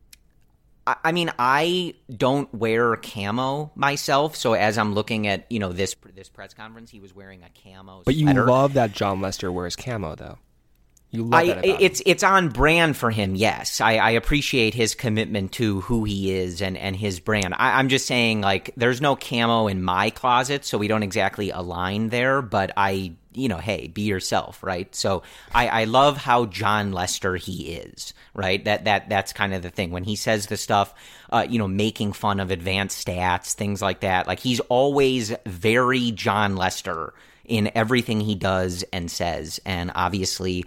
I mean, I don't wear camo myself, so as I'm looking at this press conference, he was wearing a camo. But sweater. You love that Jon Lester wears camo, though. You love that about him. It's on brand for him, yes. I appreciate his commitment to who he is and his brand. I'm just saying, like, there's no camo in my closet, so we don't exactly align there, but hey, be yourself, right? So I love how Jon Lester he is, right? That's kind of the thing. When he says the stuff, making fun of advanced stats, things like that, like, he's always very Jon Lester in everything he does and says, and obviously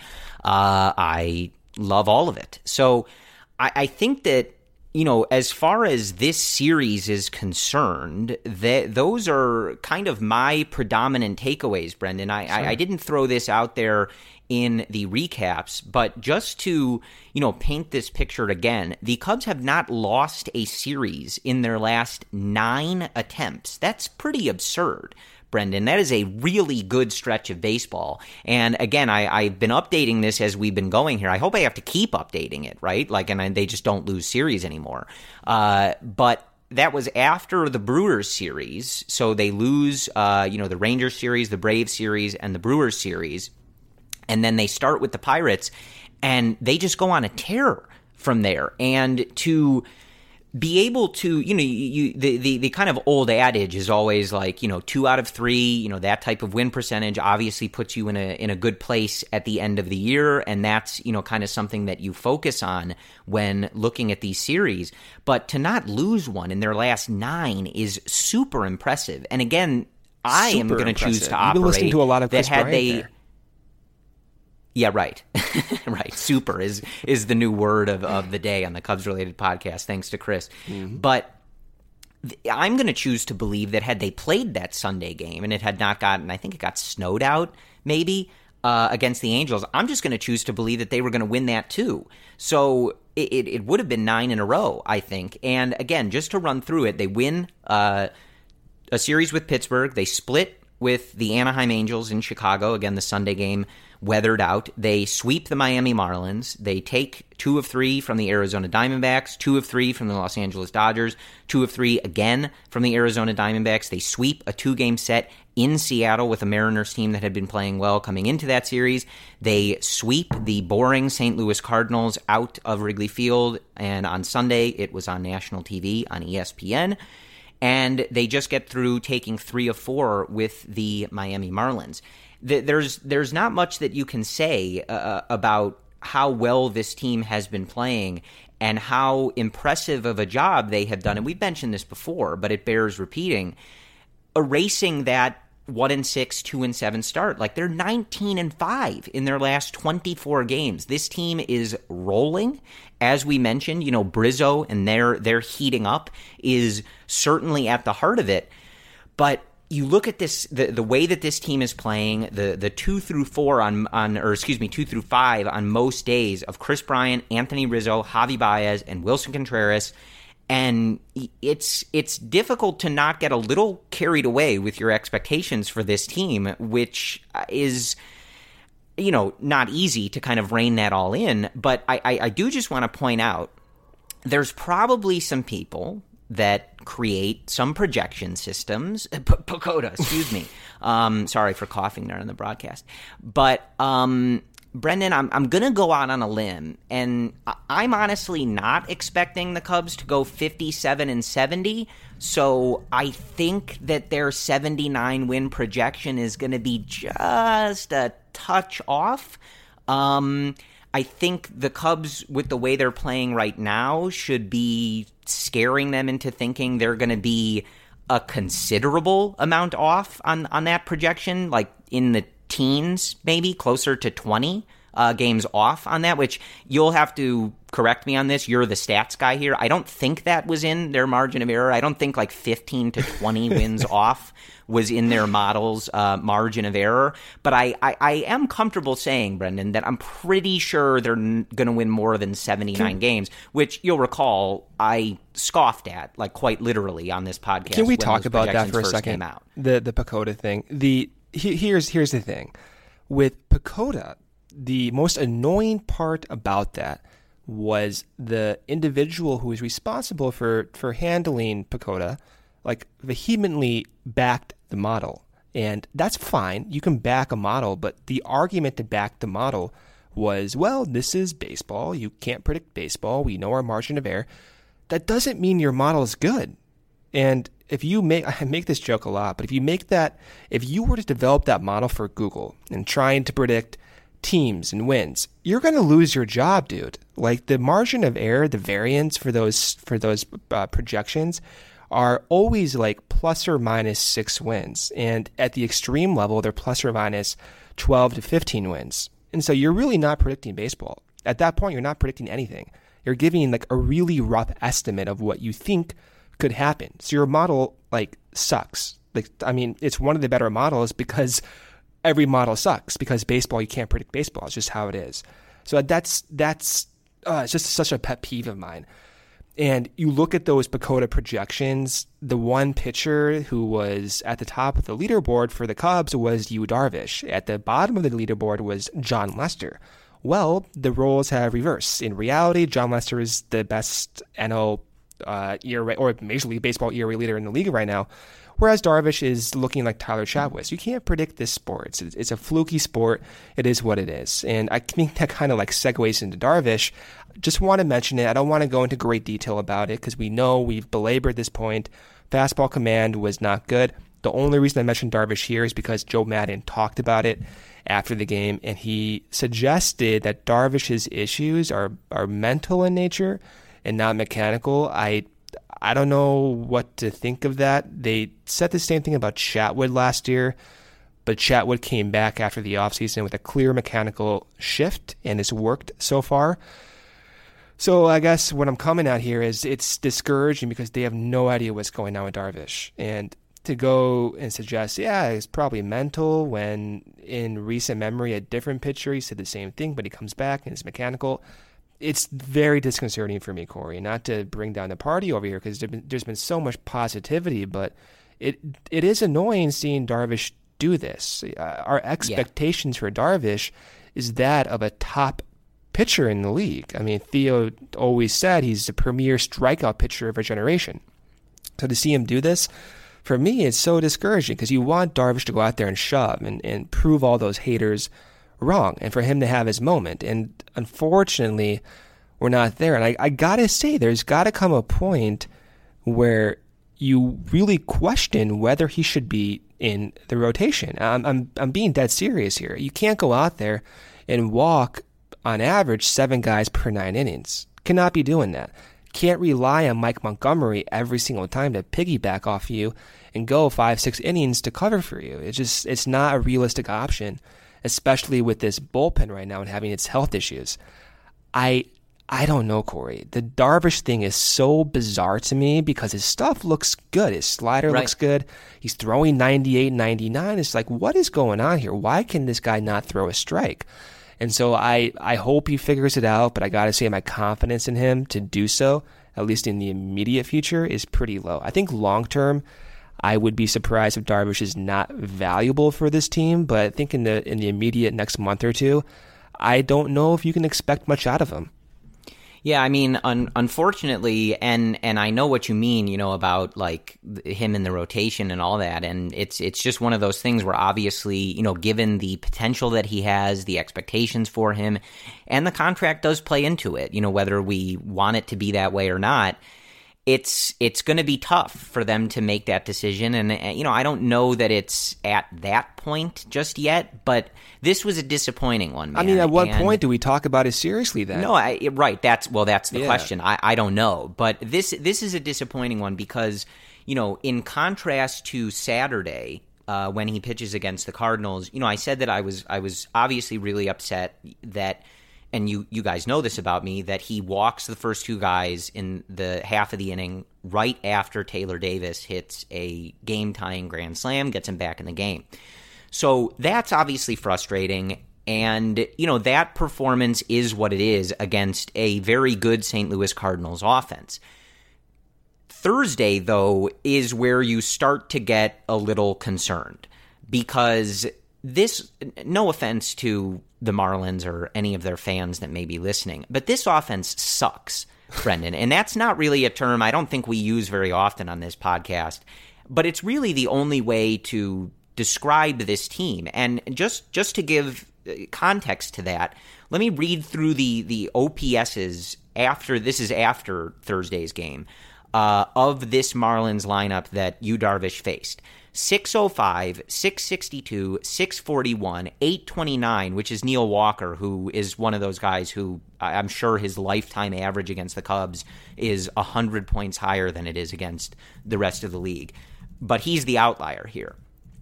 I love all of it. So I think that, as far as this series is concerned, those are kind of my predominant takeaways, Brendan. I didn't throw this out there in the recaps, but just to, paint this picture again, the Cubs have not lost a series in their last 9 attempts. That's pretty absurd, Brendan. That is a really good stretch of baseball. And again, I've been updating this as we've been going here. I hope I have to keep updating it, right? Like, and they just don't lose series anymore. But that was after the Brewers series. So they lose, the Rangers series, the Braves series, and the Brewers series. And then they start with the Pirates, and they just go on a tear from there. And to be able to, the kind of old adage is always like, 2 out of 3, that type of win percentage obviously puts you in a good place at the end of the year. And that's, kind of something that you focus on when looking at these series. But to not lose one in their last 9 is super impressive. And again, I am going to choose to operate. You've been listening to a lot of Chris Bryant there. Yeah, right. Right. Super is the new word of the day on the Cubs-related podcast, thanks to Chris. Mm-hmm. But I'm going to choose to believe that had they played that Sunday game and it had not gotten, I think it got snowed out maybe, against the Angels, I'm just going to choose to believe that they were going to win that too. So it would have been 9 in a row, I think. And again, just to run through it, they win a series with Pittsburgh. They split with the Anaheim Angels in Chicago. Again, the Sunday game weathered out. They sweep the Miami Marlins. They take 2 of 3 from the Arizona Diamondbacks, 2 of 3 from the Los Angeles Dodgers, 2 of 3 again from the Arizona Diamondbacks. They sweep a 2-game set in Seattle with a Mariners team that had been playing well coming into that series. They sweep the boring St. Louis Cardinals out of Wrigley Field, and on Sunday it was on national TV on ESPN. And they just get through taking 3 of 4 with the Miami Marlins. There's not much that you can say about how well this team has been playing and how impressive of a job they have done. And we've mentioned this before, but it bears repeating. Erasing that 1-6, 2-7 start. Like, they're 19-5 in their last 24 games. This team is rolling. As we mentioned, Brizzo and their heating up is certainly at the heart of it. But you look at this, the way that this team is playing, the 2 through 5 on most days of Chris Bryant, Anthony Rizzo, Javi Baez, and Wilson Contreras, And it's difficult to not get a little carried away with your expectations for this team, which is, not easy to kind of rein that all in. But I do just want to point out, there's probably some people that create some projection systems. Pagoda, excuse me. Sorry for coughing there on the broadcast. But Brendan, I'm going to go out on a limb, and I'm honestly not expecting the Cubs to go 57-70. So I think that their 79-win projection is going to be just a touch off. I think the Cubs, with the way they're playing right now, should be scaring them into thinking they're going to be a considerable amount off on that projection, like in the teens, maybe closer to 20 games off on that, which you'll have to correct me on this. You're the stats guy here. I don't think that was in their margin of error. I don't think like 15 to 20 wins off was in their model's margin of error. But I am comfortable saying, Brendan, that I'm pretty sure they're going to win more than 79 games, which you'll recall I scoffed at, like quite literally on this podcast. Can we talk about that for a second? The Pagoda thing. Here's the thing. With Pagoda, the most annoying part about that was the individual who was responsible for handling Pagoda, like, vehemently backed the model. And that's fine. You can back a model, but the argument to back the model was, well, this is baseball. You can't predict baseball. We know our margin of error. That doesn't mean your model is good. And if you I make this joke a lot, but if you were to develop that model for Google and trying to predict teams and wins, you're going to lose your job, dude. Like, the margin of error, the variance for those projections are always like plus or minus 6 wins. And at the extreme level, they're plus or minus 12 to 15 wins. And so you're really not predicting baseball. At that point, you're not predicting anything. You're giving like a really rough estimate of what you think could happen. So your model like sucks. Like, I mean, it's one of the better models because every model sucks, because baseball, you can't predict baseball. It's just how it is. So that's it's just such a pet peeve of mine. And you look at those Pagoda projections, the one pitcher who was at the top of the leaderboard for the Cubs was Yu Darvish. At the bottom of the leaderboard was Jon Lester. Well, the roles have reversed. In reality, Jon Lester is the best NL ERA, or Major League Baseball ERA leader in the league right now, whereas Darvish is looking like Tyler Chatwis. You can't predict this sport. It's a fluky sport. It is what it is. And I think that kind of like segues into Darvish. Just want to mention it. I don't want to go into great detail about it because we know we've belabored this point. Fastball command was not good. The only reason I mentioned Darvish here is because Joe Maddon talked about it after the game, and he suggested that Darvish's issues are mental in nature and not mechanical. I don't know what to think of that. They said the same thing about Chatwood last year, but Chatwood came back after the offseason with a clear mechanical shift and has worked so far. So I guess what I'm coming at here is it's discouraging because they have no idea what's going on with Darvish. And to go and suggest, yeah, it's probably mental, when in recent memory, a different pitcher, he said the same thing, but he comes back and it's mechanical. It's very disconcerting for me, Corey, not to bring down the party over here because there's been so much positivity, but it is annoying seeing Darvish do this. Our expectations for Darvish is that of a top pitcher in the league. I mean, Theo always said he's the premier strikeout pitcher of our generation. So to see him do this, for me, it's so discouraging because you want Darvish to go out there and shove and prove all those haters wrong and for him to have his moment. And unfortunately, we're not there. And I got to say, there's got to come a point where you really question whether he should be in the rotation. I'm being dead serious here. You can't go out there and walk on average 7 guys per 9 innings. Cannot be doing that. Can't rely on Mike Montgomery every single time to piggyback off you and go 5-6 innings to cover for you. It's not a realistic option, especially with this bullpen right now and having its health issues. I don't know, Corey. The Darvish thing is so bizarre to me because his stuff looks good. His slider looks good. He's throwing 98, 99. It's like, what is going on here? Why can this guy not throw a strike? And so I hope he figures it out, but I got to say my confidence in him to do so at least in the immediate future, is pretty low. I think long term, I would be surprised if Darvish is not valuable for this team, but I think in the immediate next month or two, I don't know if you can expect much out of him. Yeah, I mean, unfortunately, and I know what you mean, about like him in the rotation and all that, and it's just one of those things where obviously, given the potential that he has, the expectations for him, and the contract does play into it, whether we want it to be that way or not, it's going to be tough for them to make that decision. And, I don't know that it's at that point just yet, but this was a disappointing one, man. I mean, at what point do we talk about it seriously then? No, right. That's the question. I don't know. But this is a disappointing one because, in contrast to Saturday, when he pitches against the Cardinals, I said that I was obviously really upset that, and you guys know this about me, that he walks the first two guys in the half of the inning right after Taylor Davis hits a game-tying grand slam, gets him back in the game. So that's obviously frustrating, and, that performance is what it is against a very good St. Louis Cardinals offense. Thursday, though, is where you start to get a little concerned because this, no offense to the Marlins or any of their fans that may be listening, but this offense sucks, Brendan. And that's not really a term I don't think we use very often on this podcast, but it's really the only way to describe this team. And just to give context to that, let me read through the OPSs after Thursday's game of this Marlins lineup that Yu Darvish faced. 605, 662, 641, 829, which is Neil Walker, who is one of those guys who I'm sure his lifetime average against the Cubs is 100 points higher than it is against the rest of the league. But he's the outlier here.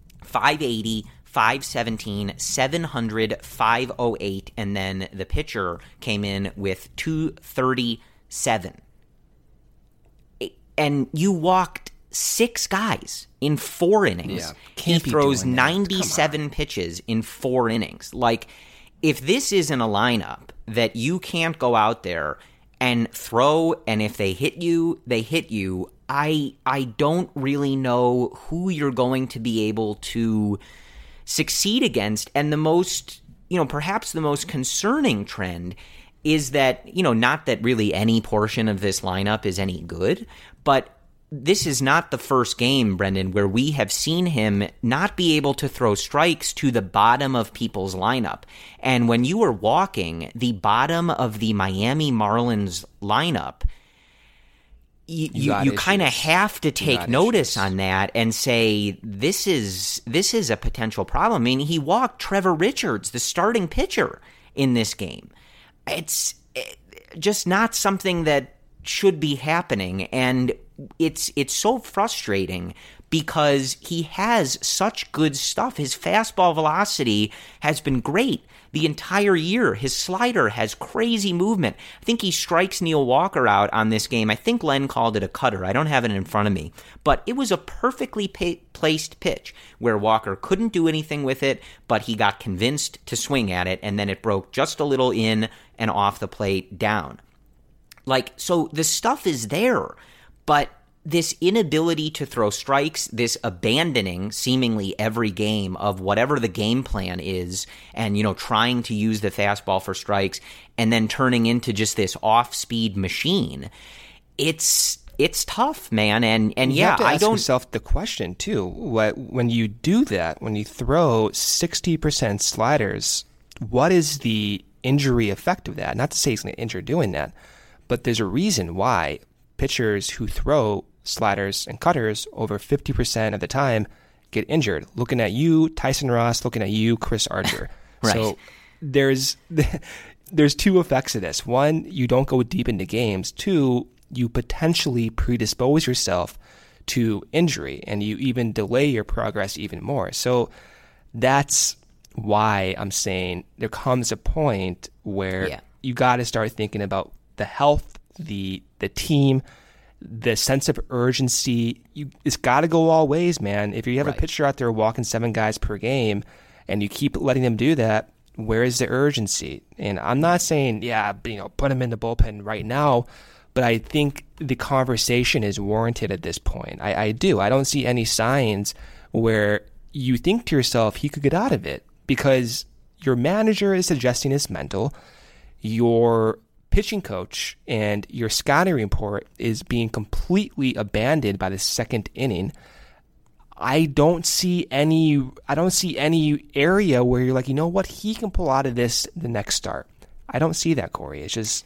580, 517, 700, 508, and then the pitcher came in with 237. And you walked 6 guys in 4 innings. Yeah, he throws 97 pitches in 4 innings. Like, if this isn't a lineup that you can't go out there and throw, and if they hit you, they hit you, I don't really know who you're going to be able to succeed against. And the most, perhaps the most concerning trend is that, not that really any portion of this lineup is any good, but this is not the first game, Brendan, where we have seen him not be able to throw strikes to the bottom of people's lineup. And when you are walking the bottom of the Miami Marlins lineup, you kind of have to take notice on that and say, this is a potential problem. I mean, he walked Trevor Richards, the starting pitcher, in this game. It's just not something that should be happening, and it's so frustrating because he has such good stuff. His fastball velocity has been great the entire year. His slider has crazy movement. I think he strikes Neil Walker out on this game. I think Len called it a cutter. I don't have it in front of me, but it was a perfectly placed pitch where Walker couldn't do anything with it, but he got convinced to swing at it, and then it broke just a little in and off the plate down. So the stuff is there, but this inability to throw strikes, this abandoning seemingly every game of whatever the game plan is and, trying to use the fastball for strikes and then turning into just this off-speed machine, it's tough, man. And you have to ask yourself the question, too. When you do that, when you throw 60% sliders, what is the injury effect of that? Not to say he's going to injure doing that, but there's a reason why pitchers who throw sliders and cutters over 50% of the time get injured. Looking at you, Tyson Ross, looking at you, Chris Archer. Right. So there's 2 effects of this. 1, you don't go deep into games. 2, you potentially predispose yourself to injury, and you even delay your progress even more. So that's why I'm saying there comes a point where you got to start thinking about the health, the team, the sense of urgency. It's got to go all ways, man. If you have a pitcher out there walking 7 guys per game and you keep letting them do that, where is the urgency? And I'm not saying, put him in the bullpen right now, but I think the conversation is warranted at this point. I do. I don't see any signs where you think to yourself he could get out of it, because your manager is suggesting it's mental. Your pitching coach and your scouting report is being completely abandoned by the second inning. I don't see any area where you're like, you know what, he can pull out of this the next start. I don't see that, Corey. It's just,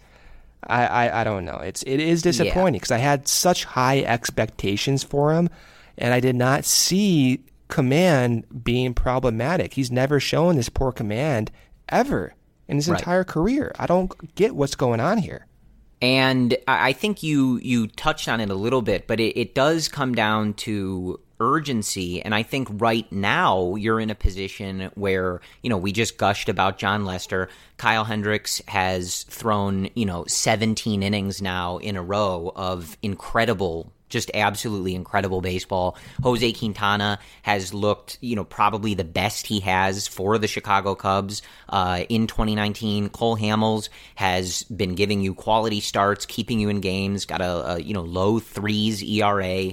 I don't know. It is disappointing because I had such high expectations for him, and I did not see command being problematic. He's never shown this poor command ever in his entire career. I don't get what's going on here. And I think you touched on it a little bit, but it does come down to urgency. And I think right now you're in a position where, we just gushed about Jon Lester. Kyle Hendricks has thrown, 17 innings now in a row of incredible, just absolutely incredible baseball. Jose Quintana has looked, probably the best he has for the Chicago Cubs in 2019. Cole Hamels has been giving you quality starts, keeping you in games, got a low threes ERA.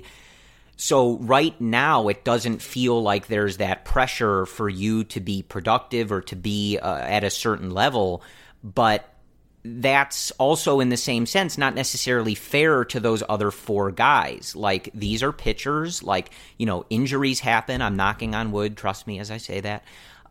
So right now, it doesn't feel like there's that pressure for you to be productive or to be at a certain level, but that's also in the same sense not necessarily fair to those other four guys. Like, these are pitchers, injuries happen. I'm knocking on wood, trust me as I say that.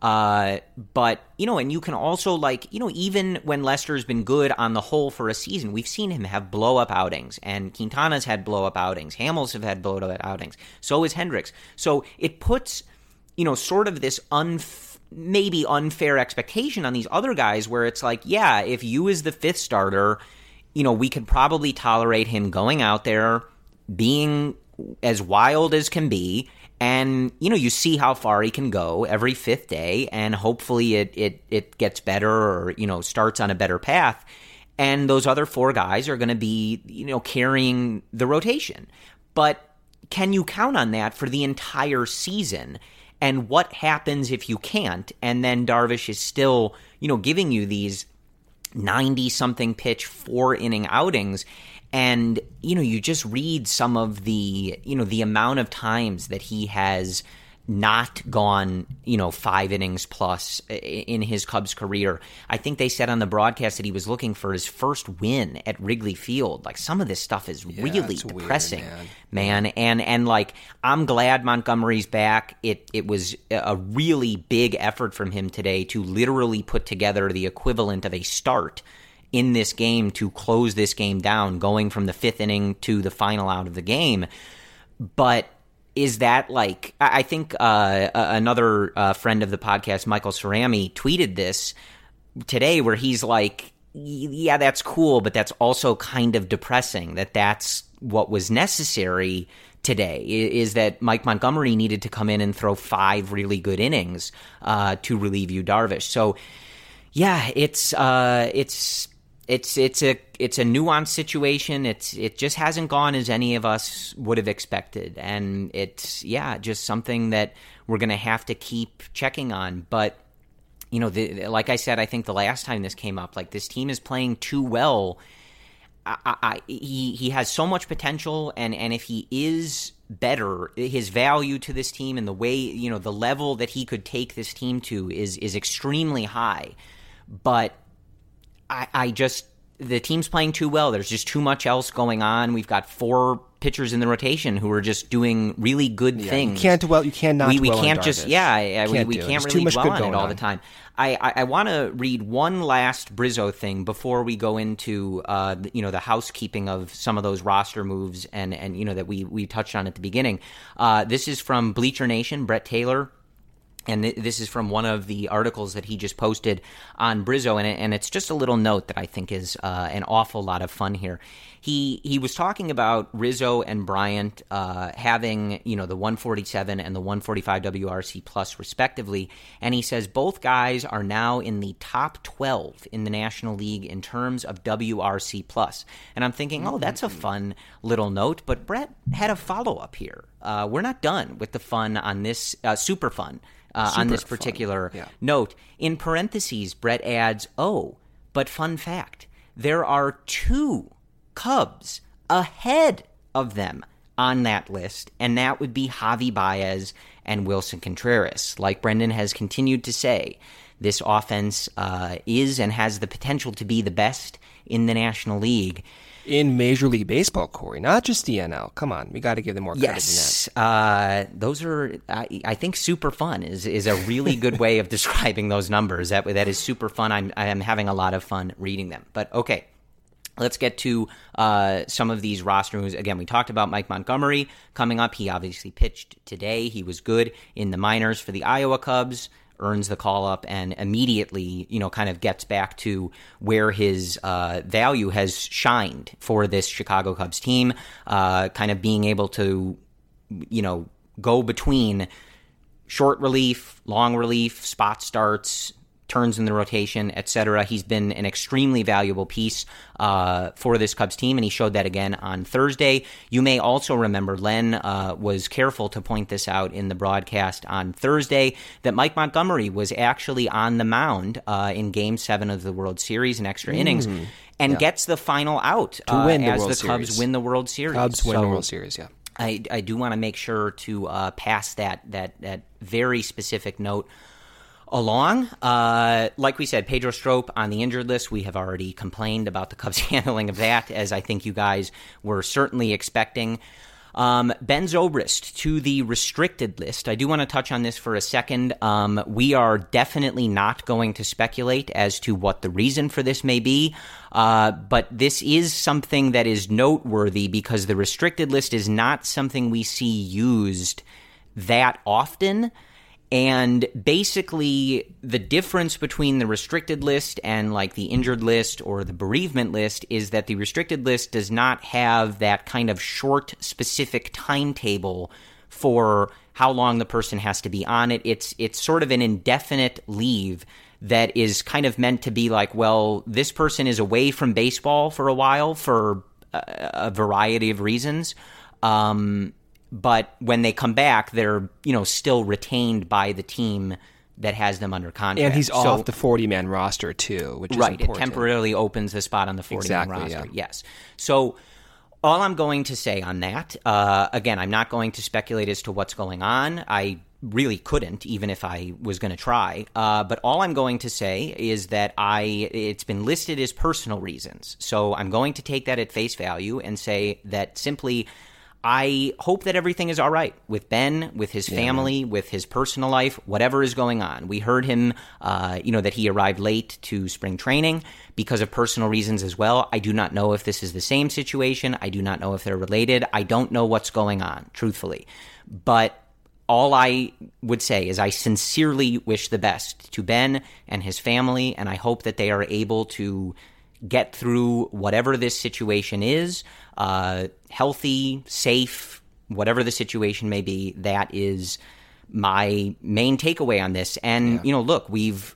But, and you can also even when Lester's been good on the whole for a season, we've seen him have blow-up outings, and Quintana's had blow-up outings. Hamels have had blow-up outings. So is Hendricks. So it puts, sort of this maybe unfair expectation on these other guys where it's like, yeah, if you as the fifth starter, we could probably tolerate him going out there, being as wild as can be, and, you see how far he can go every fifth day, and hopefully it gets better or, starts on a better path. And those other four guys are going to be, carrying the rotation. But can you count on that for the entire season? And what happens if you can't? And then Darvish is still, giving you these 90-something pitch 4-inning outings. And, you just read some of the, the amount of times that he has not gone, 5 innings plus in his Cubs career. I think they said on the broadcast that he was looking for his first win at Wrigley Field. Like, some of this stuff is really depressing, weird, man. And I'm glad Montgomery's back. It was a really big effort from him today to literally put together the equivalent of a start in this game to close this game down, going from the 5th inning to the final out of the game. But is that I think another friend of the podcast, Michael Cerami, tweeted this today where he's like, yeah, that's cool, but that's also kind of depressing that that's what was necessary today, is that Mike Montgomery needed to come in and throw 5 really good innings to relieve Yu Darvish. So, yeah, it's a nuanced situation. It just hasn't gone as any of us would have expected, and it's just something that we're going to have to keep checking on. But like I said, I think the last time this came up, this team is playing too well. He has so much potential, and if he is better, his value to this team and the way the level that he could take this team to is extremely high. But the team's playing too well. There's just too much else going on. We've got 4 pitchers in the rotation who are just doing really good things. You can't dwell. You cannot. We dwell can't on just. Darvish. We can't really dwell on it all the time. I want to read one last Brizzo thing before we go into the housekeeping of some of those roster moves and that we touched on at the beginning. This is from Bleacher Nation, Brett Taylor. And this is from one of the articles that he just posted on Brizzo, and it's just a little note that I think is an awful lot of fun here. He was talking about Rizzo and Bryant having the 147 and the 145 WRC plus respectively, and he says both guys are now in the top 12 in the National League in terms of WRC plus. And I'm thinking, that's a fun little note, but Brett had a follow-up here. We're not done with the fun on this, super fun. On this particular note. In parentheses, Brett adds, but fun fact, there are 2 Cubs ahead of them on that list, and that would be Javi Baez and Wilson Contreras. Like Brendan has continued to say, this offense is and has the potential to be the best in the National League. In Major League Baseball, Corey, not just the NL. Come on, we got to give them more credit than that. Those are, I think, super fun is a really good way of describing those numbers. That is super fun. I'm having a lot of fun reading them. But okay, let's get to some of these roster moves. Again, we talked about Mike Montgomery coming up. He obviously pitched today. He was good in the minors for the Iowa Cubs. Earns the call-up and immediately, kind of gets back to where his value has shined for this Chicago Cubs team, kind of being able to, go between short relief, long relief, spot starts, turns in the rotation, etc. He's been an extremely valuable piece for this Cubs team, and he showed that again on Thursday. You may also remember, Len was careful to point this out in the broadcast on Thursday, that Mike Montgomery was actually on the mound in Game 7 of the World Series in extra innings, and gets the final out to win as the the Cubs win the World Series. Cubs win the World Series, yeah. I do want to make sure to pass that very specific note along. Like we said, Pedro Strop on the injured list. We have already complained about the Cubs' handling of that, as I think you guys were certainly expecting. Ben Zobrist to the restricted list. I do want to touch on this for a second. We are definitely not going to speculate as to what the reason for this may be, but this is something that is noteworthy because the restricted list is not something we see used that often. And basically, the difference between the restricted list and like the injured list or the bereavement list is that the restricted list does not have that kind of short, specific timetable for how long the person has to be on it. It's sort of an indefinite leave that is kind of meant to be like, well, this person is away from baseball for a while for a variety of reasons. But when they come back, they're, still retained by the team that has them under contract. And he's off the 40-man roster, too, which is right. important. It temporarily opens the spot on the 40-man roster. Yeah. Yes. So all I'm going to say on that, again, I'm not going to speculate as to what's going on. I really couldn't, even if I was going to try. But all I'm going to say is that it's been listed as personal reasons. So I'm going to take that at face value and say that simply I hope that everything is all right with Ben, with his family, with his personal life, whatever is going on. We heard him, that he arrived late to spring training because of personal reasons as well. I do not know if this is the same situation. I do not know if they're related. I don't know what's going on, truthfully. But all I would say is I sincerely wish the best to Ben and his family, and I hope that they are able to get through whatever this situation is, healthy, safe, whatever the situation may be. That is my main takeaway on this. And, look, we've,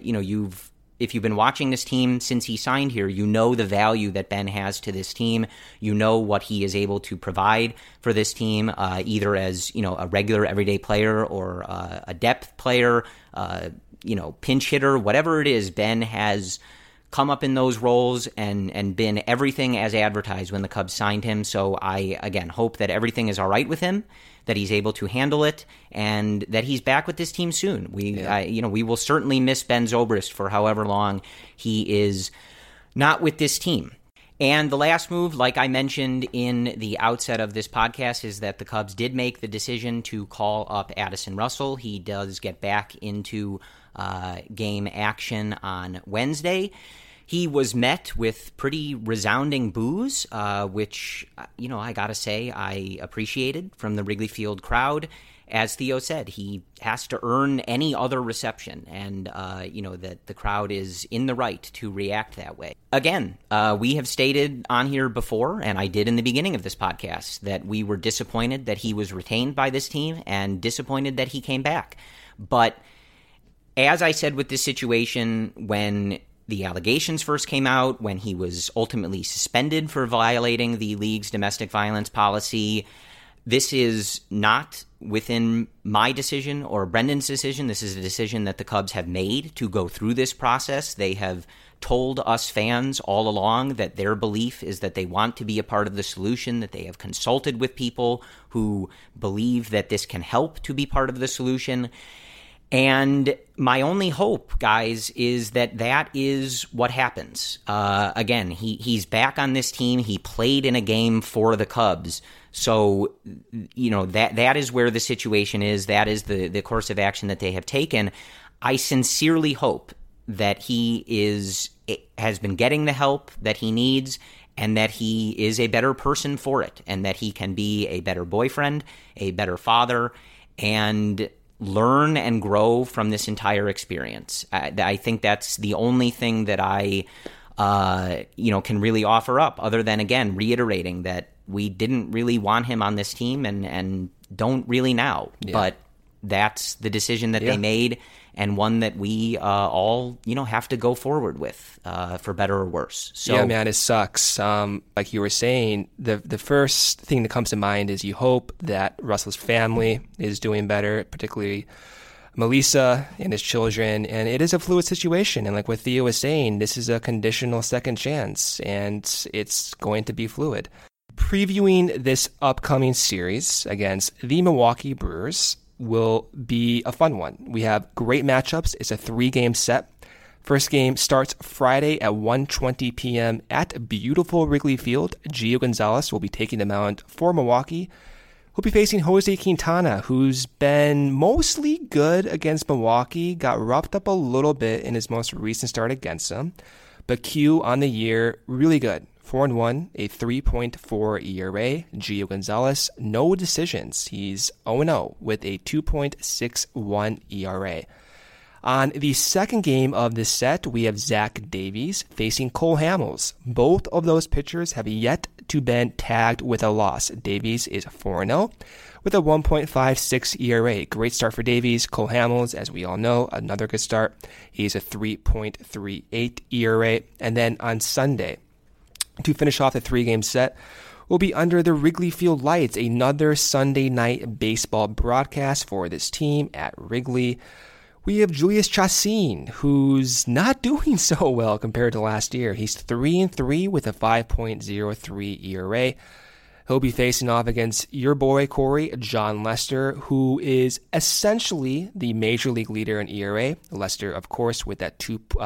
if you've been watching this team since he signed here, you know the value that Ben has to this team. You know what he is able to provide for this team, either as, a regular everyday player or a depth player, pinch hitter, whatever it is. Ben has come up in those roles and been everything as advertised when the Cubs signed him. So I, again, hope that everything is all right with him, that he's able to handle it, and that he's back with this team soon. We will certainly miss Ben Zobrist for however long he is not with this team. And the last move, like I mentioned in the outset of this podcast, is that the Cubs did make the decision to call up Addison Russell. He does get back into game action on Wednesday. He was met with pretty resounding boos, which, I gotta say I appreciated from the Wrigley Field crowd. As Theo said, he has to earn any other reception, and, that the crowd is in the right to react that way. Again, we have stated on here before, and I did in the beginning of this podcast, that we were disappointed that he was retained by this team and disappointed that he came back. But as I said with this situation, when the allegations first came out, when he was ultimately suspended for violating the league's domestic violence policy, This is not within my decision or Brendan's decision. This is a decision that the Cubs have made to go through this process. They have told us fans all along that their belief is that they want to be a part of the solution, that they have consulted with people who believe that this can help to be part of the solution. And my only hope, guys, is that that is what happens. Again, he's back on this team. He played in a game for the Cubs. So, that is where the situation is. That is the course of action that they have taken. I sincerely hope that he has been getting the help that he needs, and that he is a better person for it, and that he can be a better boyfriend, a better father, and learn and grow from this entire experience. I think that's the only thing that I can really offer up, other than, again, reiterating that we didn't really want him on this team and don't really now. Yeah. But that's the decision that they made, and one that we all, have to go forward with, for better or worse. So, yeah, man, it sucks. Like you were saying, the first thing that comes to mind is you hope that Russell's family is doing better, particularly Melissa and his children. And it is a fluid situation. And like what Theo was saying, this is a conditional second chance, and it's going to be fluid. Previewing this upcoming series against the Milwaukee Brewers will be a fun one. We have great matchups. It's a 3-game set. First game starts Friday at 1:20 p.m. at beautiful Wrigley Field. Gio Gonzalez will be taking the mound for Milwaukee. He'll be facing Jose Quintana, who's been mostly good against Milwaukee, got roughed up a little bit in his most recent start against them. But Q on the year, really good. 4-1, a 3.4 ERA. Gio Gonzalez, no decisions. He's 0-0 with a 2.61 ERA. On the second game of this set, we have Zach Davies facing Cole Hamels. Both of those pitchers have yet to been tagged with a loss. Davies is 4-0 with a 1.56 ERA. Great start for Davies. Cole Hamels, as we all know, another good start. He's a 3.38 ERA. And then on Sunday, to finish off the 3-game set, will be under the Wrigley Field lights, another Sunday night baseball broadcast for this team at Wrigley. We have Julius Chacin, who's not doing so well compared to last year. He's 3-3 with a 5.03 ERA. He'll be facing off against your boy, Corey, John Lester, who is essentially the major league leader in ERA. Lester, of course, with that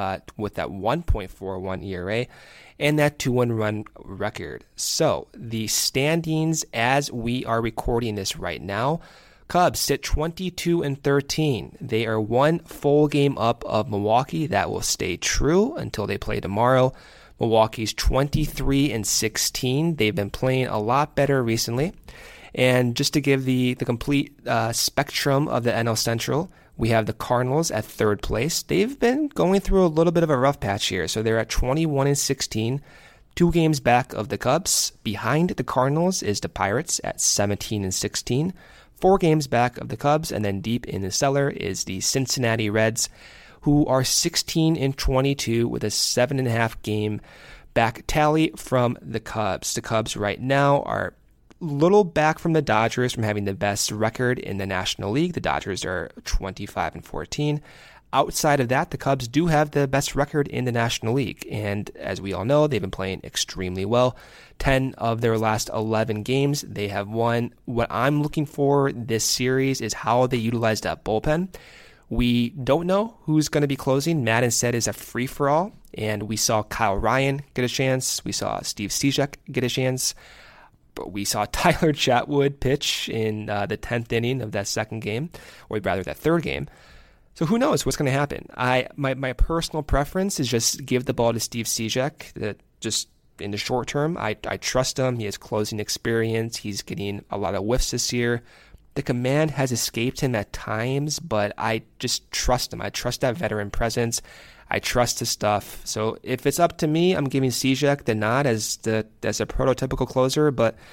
1.41 ERA and that 2-1 run record. So the standings as we are recording this right now, Cubs sit 22-13. They are one full game up of Milwaukee. That will stay true until they play tomorrow. Milwaukee's 23-16. They've been playing a lot better recently. And just to give the complete spectrum of the NL Central, we have the Cardinals at third place. They've been going through a little bit of a rough patch here. So they're at 21-16, 2 games back of the Cubs. Behind the Cardinals is the Pirates at 17-16, 4 games back of the Cubs. And then deep in the cellar is the Cincinnati Reds, who are 16-22 with a 7.5 game back tally from the Cubs. The Cubs right now are little back from the Dodgers from having the best record in the National League. The Dodgers are 25-14. Outside of that, the Cubs do have the best record in the National League. And as we all know, they've been playing extremely well. 10 of their last 11 games, they have won. What I'm looking for this series is how they utilize that bullpen. We don't know who's going to be closing. Madden said it's a free-for-all. And we saw Kyle Ryan get a chance. We saw Steve Cishek get a chance. But we saw Tyler Chatwood pitch in the 10th inning of that second game, or rather that third game. So who knows what's going to happen? My personal preference is just give the ball to Steve Cishek. Just in the short term, I trust him. He has closing experience. He's getting a lot of whiffs this year. The command has escaped him at times, but I just trust him. I trust that veteran presence. I trust his stuff. So if it's up to me, I'm giving Cishek the nod as a prototypical closer, but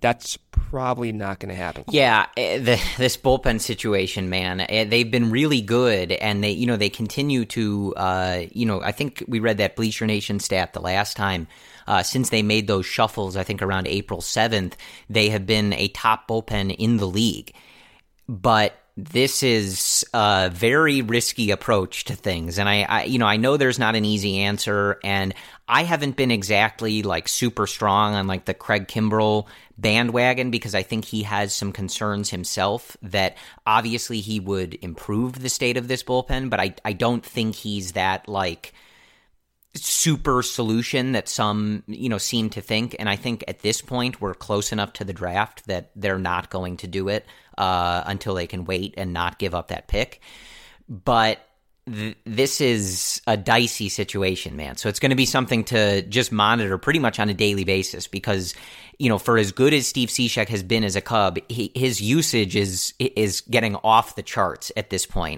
that's probably not going to happen. Yeah, this bullpen situation, man, they've been really good, and they continue to, I think we read that Bleacher Nation stat the last time. Since they made those shuffles, I think around April 7th, they have been a top bullpen in the league. But this is a very risky approach to things. And I know there's not an easy answer, and I haven't been exactly like super strong on like the Craig Kimbrel bandwagon, because I think he has some concerns himself that obviously he would improve the state of this bullpen, but I don't think he's that like super solution that some, seem to think. And I think at this point we're close enough to the draft that they're not going to do it until they can wait and not give up that pick. But this is a dicey situation, man. So it's going to be something to just monitor pretty much on a daily basis, because, for as good as Steve Cishek has been as a Cub, his usage is getting off the charts at this point.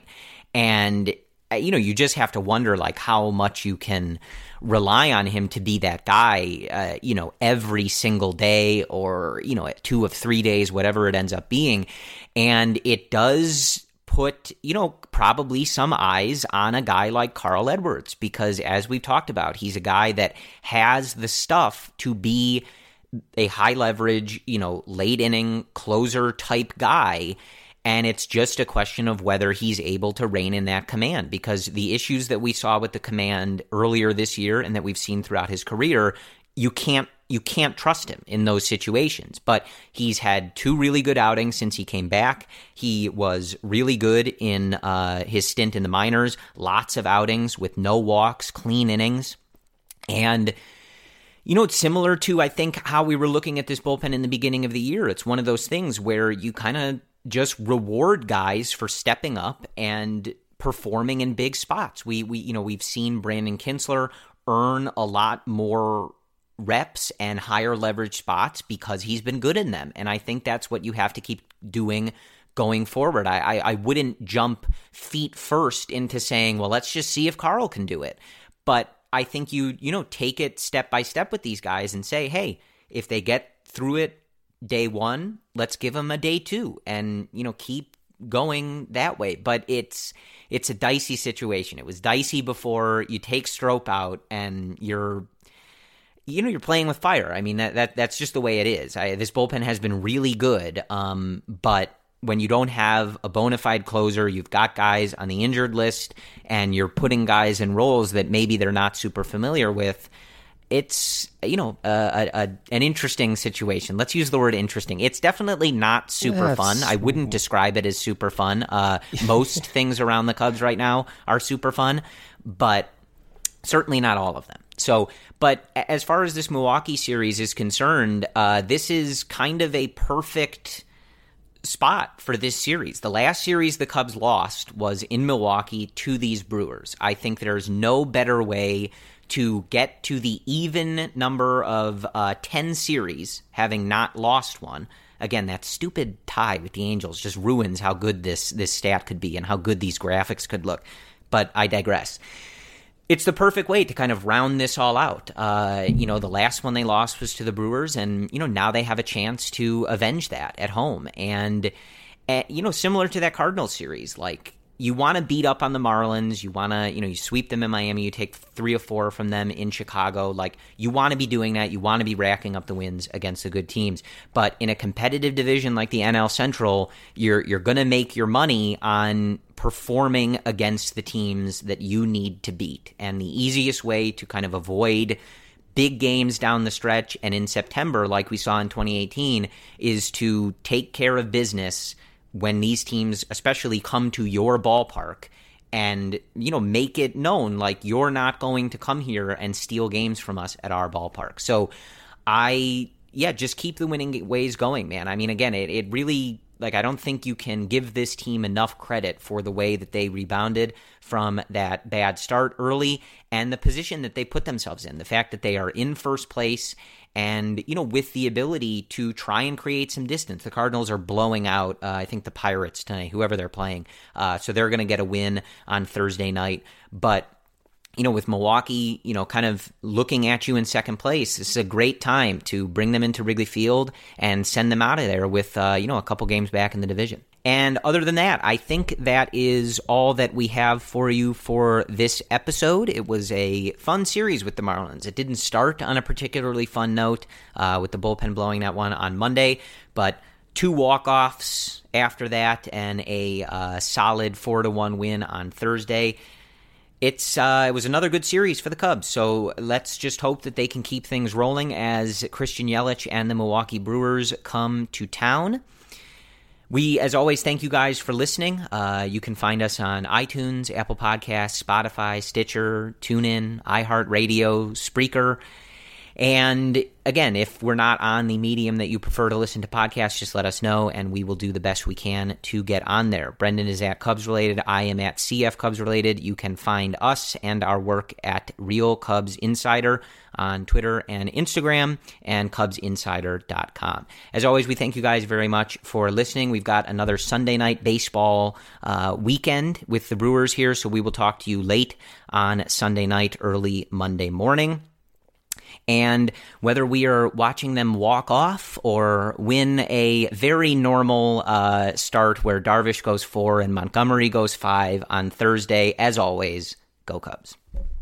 And you just have to wonder like how much you can rely on him to be that guy, every single day, or, 2 of 3 days, whatever it ends up being. And it does put, probably some eyes on a guy like Carl Edwards, because as we've talked about, he's a guy that has the stuff to be a high leverage, late inning closer type guy. And it's just a question of whether he's able to rein in that command, because the issues that we saw with the command earlier this year and that we've seen throughout his career, you can't trust him in those situations. But he's had 2 really good outings since he came back. He was really good in his stint in the minors, lots of outings with no walks, clean innings. And it's similar to, I think, how we were looking at this bullpen in the beginning of the year. It's one of those things where you kind of just reward guys for stepping up and performing in big spots. We've seen Brandon Kintzler earn a lot more reps and higher leverage spots because he's been good in them. And I think that's what you have to keep doing going forward. I wouldn't jump feet first into saying, well, let's just see if Carl can do it. But I think you take it step by step with these guys and say, hey, if they get through it day 1, let's give them a day 2, and keep going that way. But it's a dicey situation. It was dicey before. You take Strop out and you're playing with fire. I mean, that's just the way it is. This bullpen has been really good, but when you don't have a bona fide closer, you've got guys on the injured list, and you're putting guys in roles that maybe they're not super familiar with. It's, an interesting situation. Let's use the word interesting. It's definitely not super fun. I wouldn't describe it as super fun. Most things around the Cubs right now are super fun, but certainly not all of them. So, but as far as this Milwaukee series is concerned, this is kind of a perfect spot for this series. The last series the Cubs lost was in Milwaukee to these Brewers. I think there's no better way to get to the even number of 10 series, having not lost one. Again, that stupid tie with the Angels just ruins how good this stat could be and how good these graphics could look. But I digress. It's the perfect way to kind of round this all out. The last one they lost was to the Brewers, and, now they have a chance to avenge that at home. And, similar to that Cardinals series, like, you want to beat up on the Marlins. You want to, you sweep them in Miami. You take 3 or 4 from them in Chicago. Like, you want to be doing that. You want to be racking up the wins against the good teams. But in a competitive division like the NL Central, you're going to make your money on performing against the teams that you need to beat. And the easiest way to kind of avoid big games down the stretch and in September, like we saw in 2018, is to take care of business when these teams especially come to your ballpark and, make it known, like, you're not going to come here and steal games from us at our ballpark. So just keep the winning ways going, man. I mean, again, it really, like, I don't think you can give this team enough credit for the way that they rebounded from that bad start early and the position that they put themselves in. The fact that they are in first place and, with the ability to try and create some distance. The Cardinals are blowing out, I think, the Pirates tonight, whoever they're playing. So they're going to get a win on Thursday night. But with Milwaukee, kind of looking at you in second place, this is a great time to bring them into Wrigley Field and send them out of there with, a couple games back in the division. And other than that, I think that is all that we have for you for this episode. It was a fun series with the Marlins. It didn't start on a particularly fun note with the bullpen blowing that one on Monday, but 2 walk-offs after that and a solid 4-1 win on Thursday. It was another good series for the Cubs, so let's just hope that they can keep things rolling as Christian Yelich and the Milwaukee Brewers come to town. We, as always, thank you guys for listening. You can find us on iTunes, Apple Podcasts, Spotify, Stitcher, TuneIn, iHeartRadio, Spreaker. And again, if we're not on the medium that you prefer to listen to podcasts, just let us know, and we will do the best we can to get on there. Brendan is at Cubs Related. I am at CF Cubs Related. You can find us and our work at Real Cubs Insider on Twitter and Instagram, and CubsInsider.com. As always, we thank you guys very much for listening. We've got another Sunday night baseball weekend with the Brewers here, so we will talk to you late on Sunday night, early Monday morning. And whether we are watching them walk off or win a very normal start where Darvish goes 4 and Montgomery goes 5 on Thursday, as always, go Cubs.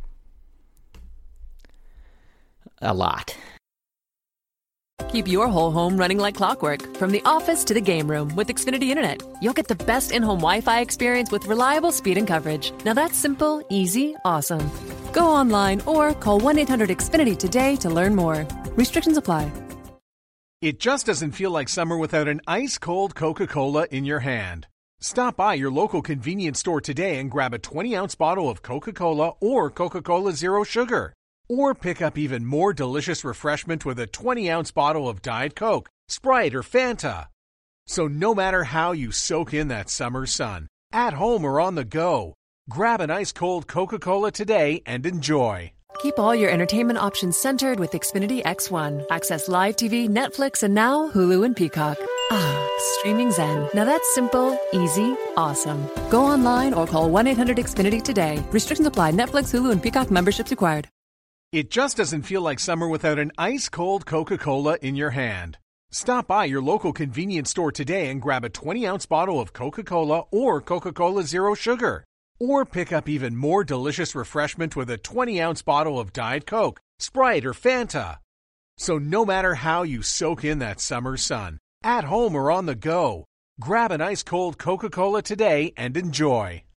A lot. Keep your whole home running like clockwork, from the office to the game room with Xfinity Internet. You'll get the best in-home Wi-Fi experience with reliable speed and coverage. Now that's simple, easy, awesome. Go online or call 1-800-XFINITY today to learn more. Restrictions apply. It just doesn't feel like summer without an ice-cold Coca-Cola in your hand. Stop by your local convenience store today and grab a 20-ounce bottle of Coca-Cola or Coca-Cola Zero Sugar. Or pick up even more delicious refreshment with a 20-ounce bottle of Diet Coke, Sprite, or Fanta. So no matter how you soak in that summer sun, at home or on the go, grab an ice-cold Coca-Cola today and enjoy. Keep all your entertainment options centered with Xfinity X1. Access live TV, Netflix, and now Hulu and Peacock. Streaming zen. Now that's simple, easy, awesome. Go online or call 1-800-XFINITY today. Restrictions apply. Netflix, Hulu, and Peacock memberships required. It just doesn't feel like summer without an ice-cold Coca-Cola in your hand. Stop by your local convenience store today and grab a 20-ounce bottle of Coca-Cola or Coca-Cola Zero Sugar. Or pick up even more delicious refreshment with a 20-ounce bottle of Diet Coke, Sprite, or Fanta. So no matter how you soak in that summer sun, at home or on the go, grab an ice-cold Coca-Cola today and enjoy.